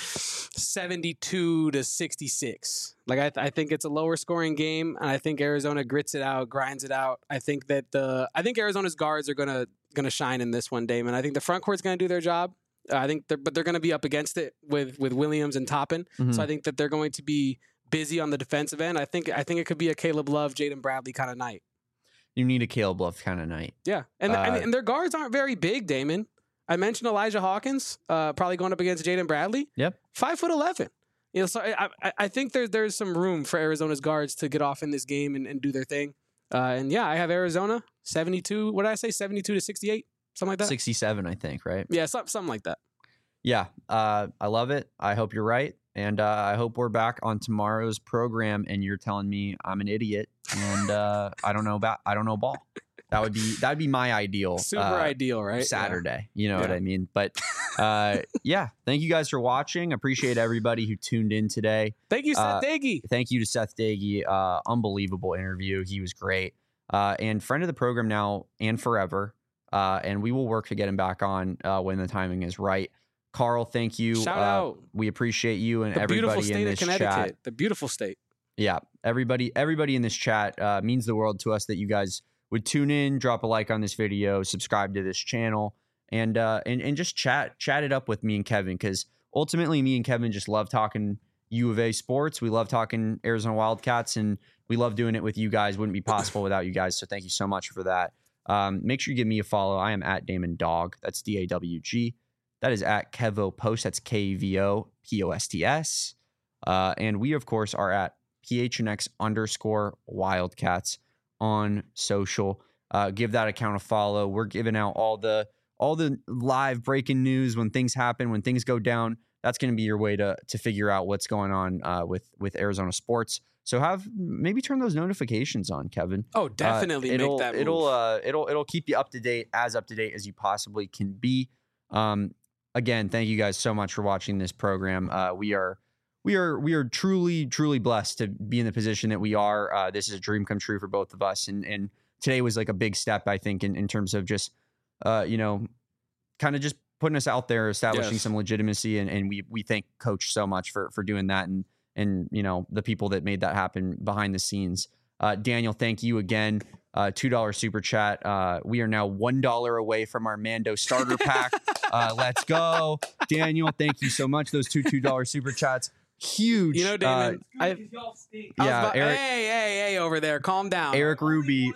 seventy-two to sixty-six. Like I, th- I think it's a lower scoring game, and I think Arizona grits it out, grinds it out. I think that the I think Arizona's guards are gonna gonna shine in this one, Damon. I think the front court's gonna do their job. Uh, I think, they're, but they're gonna be up against it with with Williams and Toppin. Mm-hmm. So I think that they're going to be busy on the defensive end. I think I think it could be a Caleb Love, Jaden Bradley kind of night. You need a Caleb Love kind of night. Yeah, and, uh, and and their guards aren't very big, Damon. I mentioned Elijah Hawkins, uh, probably going up against Jaden Bradley. Yep, five foot eleven. You know, so I, I I think there's there's some room for Arizona's guards to get off in this game and, and do their thing. Uh, and yeah, I have Arizona seventy-two. What did I say? seventy-two to sixty-eight, something like that. sixty-seven, I think. Right? Yeah, something something like that. Yeah, uh, I love it. I hope you're right, and uh, I hope we're back on tomorrow's program, and you're telling me I'm an idiot and uh, I don't know about I don't know ball. That would be that would be my ideal, super uh, ideal, right? Saturday, yeah. You know yeah. what I mean. But uh, yeah, thank you guys for watching. Appreciate everybody who tuned in today. Thank you, Seth uh, Dagey. Thank you to Seth Dagey. Uh, unbelievable interview. He was great, uh, and friend of the program now and forever. Uh, and we will work to get him back on uh, when the timing is right. Carl, thank you. Shout uh, out. We appreciate you and the everybody state in this of Connecticut, chat. The beautiful state. Yeah, everybody, everybody in this chat uh, means the world to us that you guys would tune in, drop a like on this video, subscribe to this channel, and uh, and and just chat chat it up with me and Kevin, because ultimately me and Kevin just love talking U of A sports. We love talking Arizona Wildcats, and we love doing it with you guys. Wouldn't be possible without you guys. So thank you so much for that. Um, make sure you give me a follow. I am at Damon Dog. That's D A W G. That is at Kevo Post. That's K V O P O S T S. Uh, and we, of course, are at P H N X underscore Wildcats on social. Uh, give that account a follow. We're giving out all the all the live breaking news when things happen, when things go down. That's going to be your way to to figure out what's going on uh, with with Arizona sports. So have maybe turn those notifications on, Kevin. Oh, definitely uh, it'll, make that move. It'll uh, it'll it'll keep you up to date, as up to date as you possibly can be. Um, again, thank you guys so much for watching this program. Uh, we are we are we are truly truly blessed to be in the position that we are. Uh, this is a dream come true for both of us, and and today was like a big step, I think, in, in terms of just uh, you know, kind of just putting us out there, establishing yes. some legitimacy, and, and we we thank Coach so much for for doing that, and and you know the people that made that happen behind the scenes. Uh, Daniel, thank you again. Uh, two dollar super chat. Uh, we are now one dollar away from our Mando starter pack. uh, let's go, Daniel. Thank you so much. Those two two dollar super chats, huge. You know, Damon. Uh, I, yeah, about, Eric, hey, hey, hey, over there. Calm down. Eric Ruby.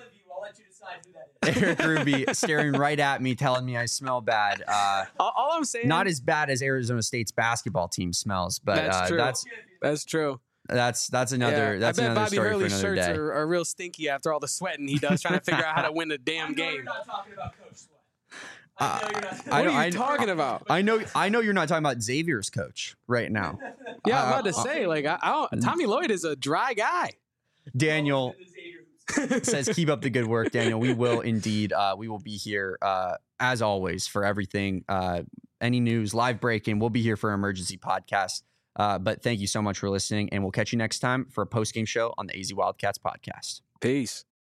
Eric Ruby staring right at me, telling me I smell bad. Uh, all, all I'm saying, not as bad as Arizona State's basketball team smells, but that's uh, true. that's that's true. That's that's another yeah, that's I bet another Bobby story Hurley's for another shirts day. Are, are real stinky after all the sweating he does trying to figure out how to win a damn I know game. You're not talking about Coach Sweat. Uh, I know you're not. What I are know, you I, talking about? I know I know you're not talking about Xavier's coach right now. Yeah, I'm Uh, about to say, like, I, I don't, Tommy Lloyd is a dry guy. Daniel says, keep up the good work, Daniel. We will indeed. Uh, we will be here, uh, as always, for everything. Uh, any news, live breaking, we'll be here for emergency podcast. Uh, but thank you so much for listening, and we'll catch you next time for a post-game show on the A Z Wildcats podcast. Peace.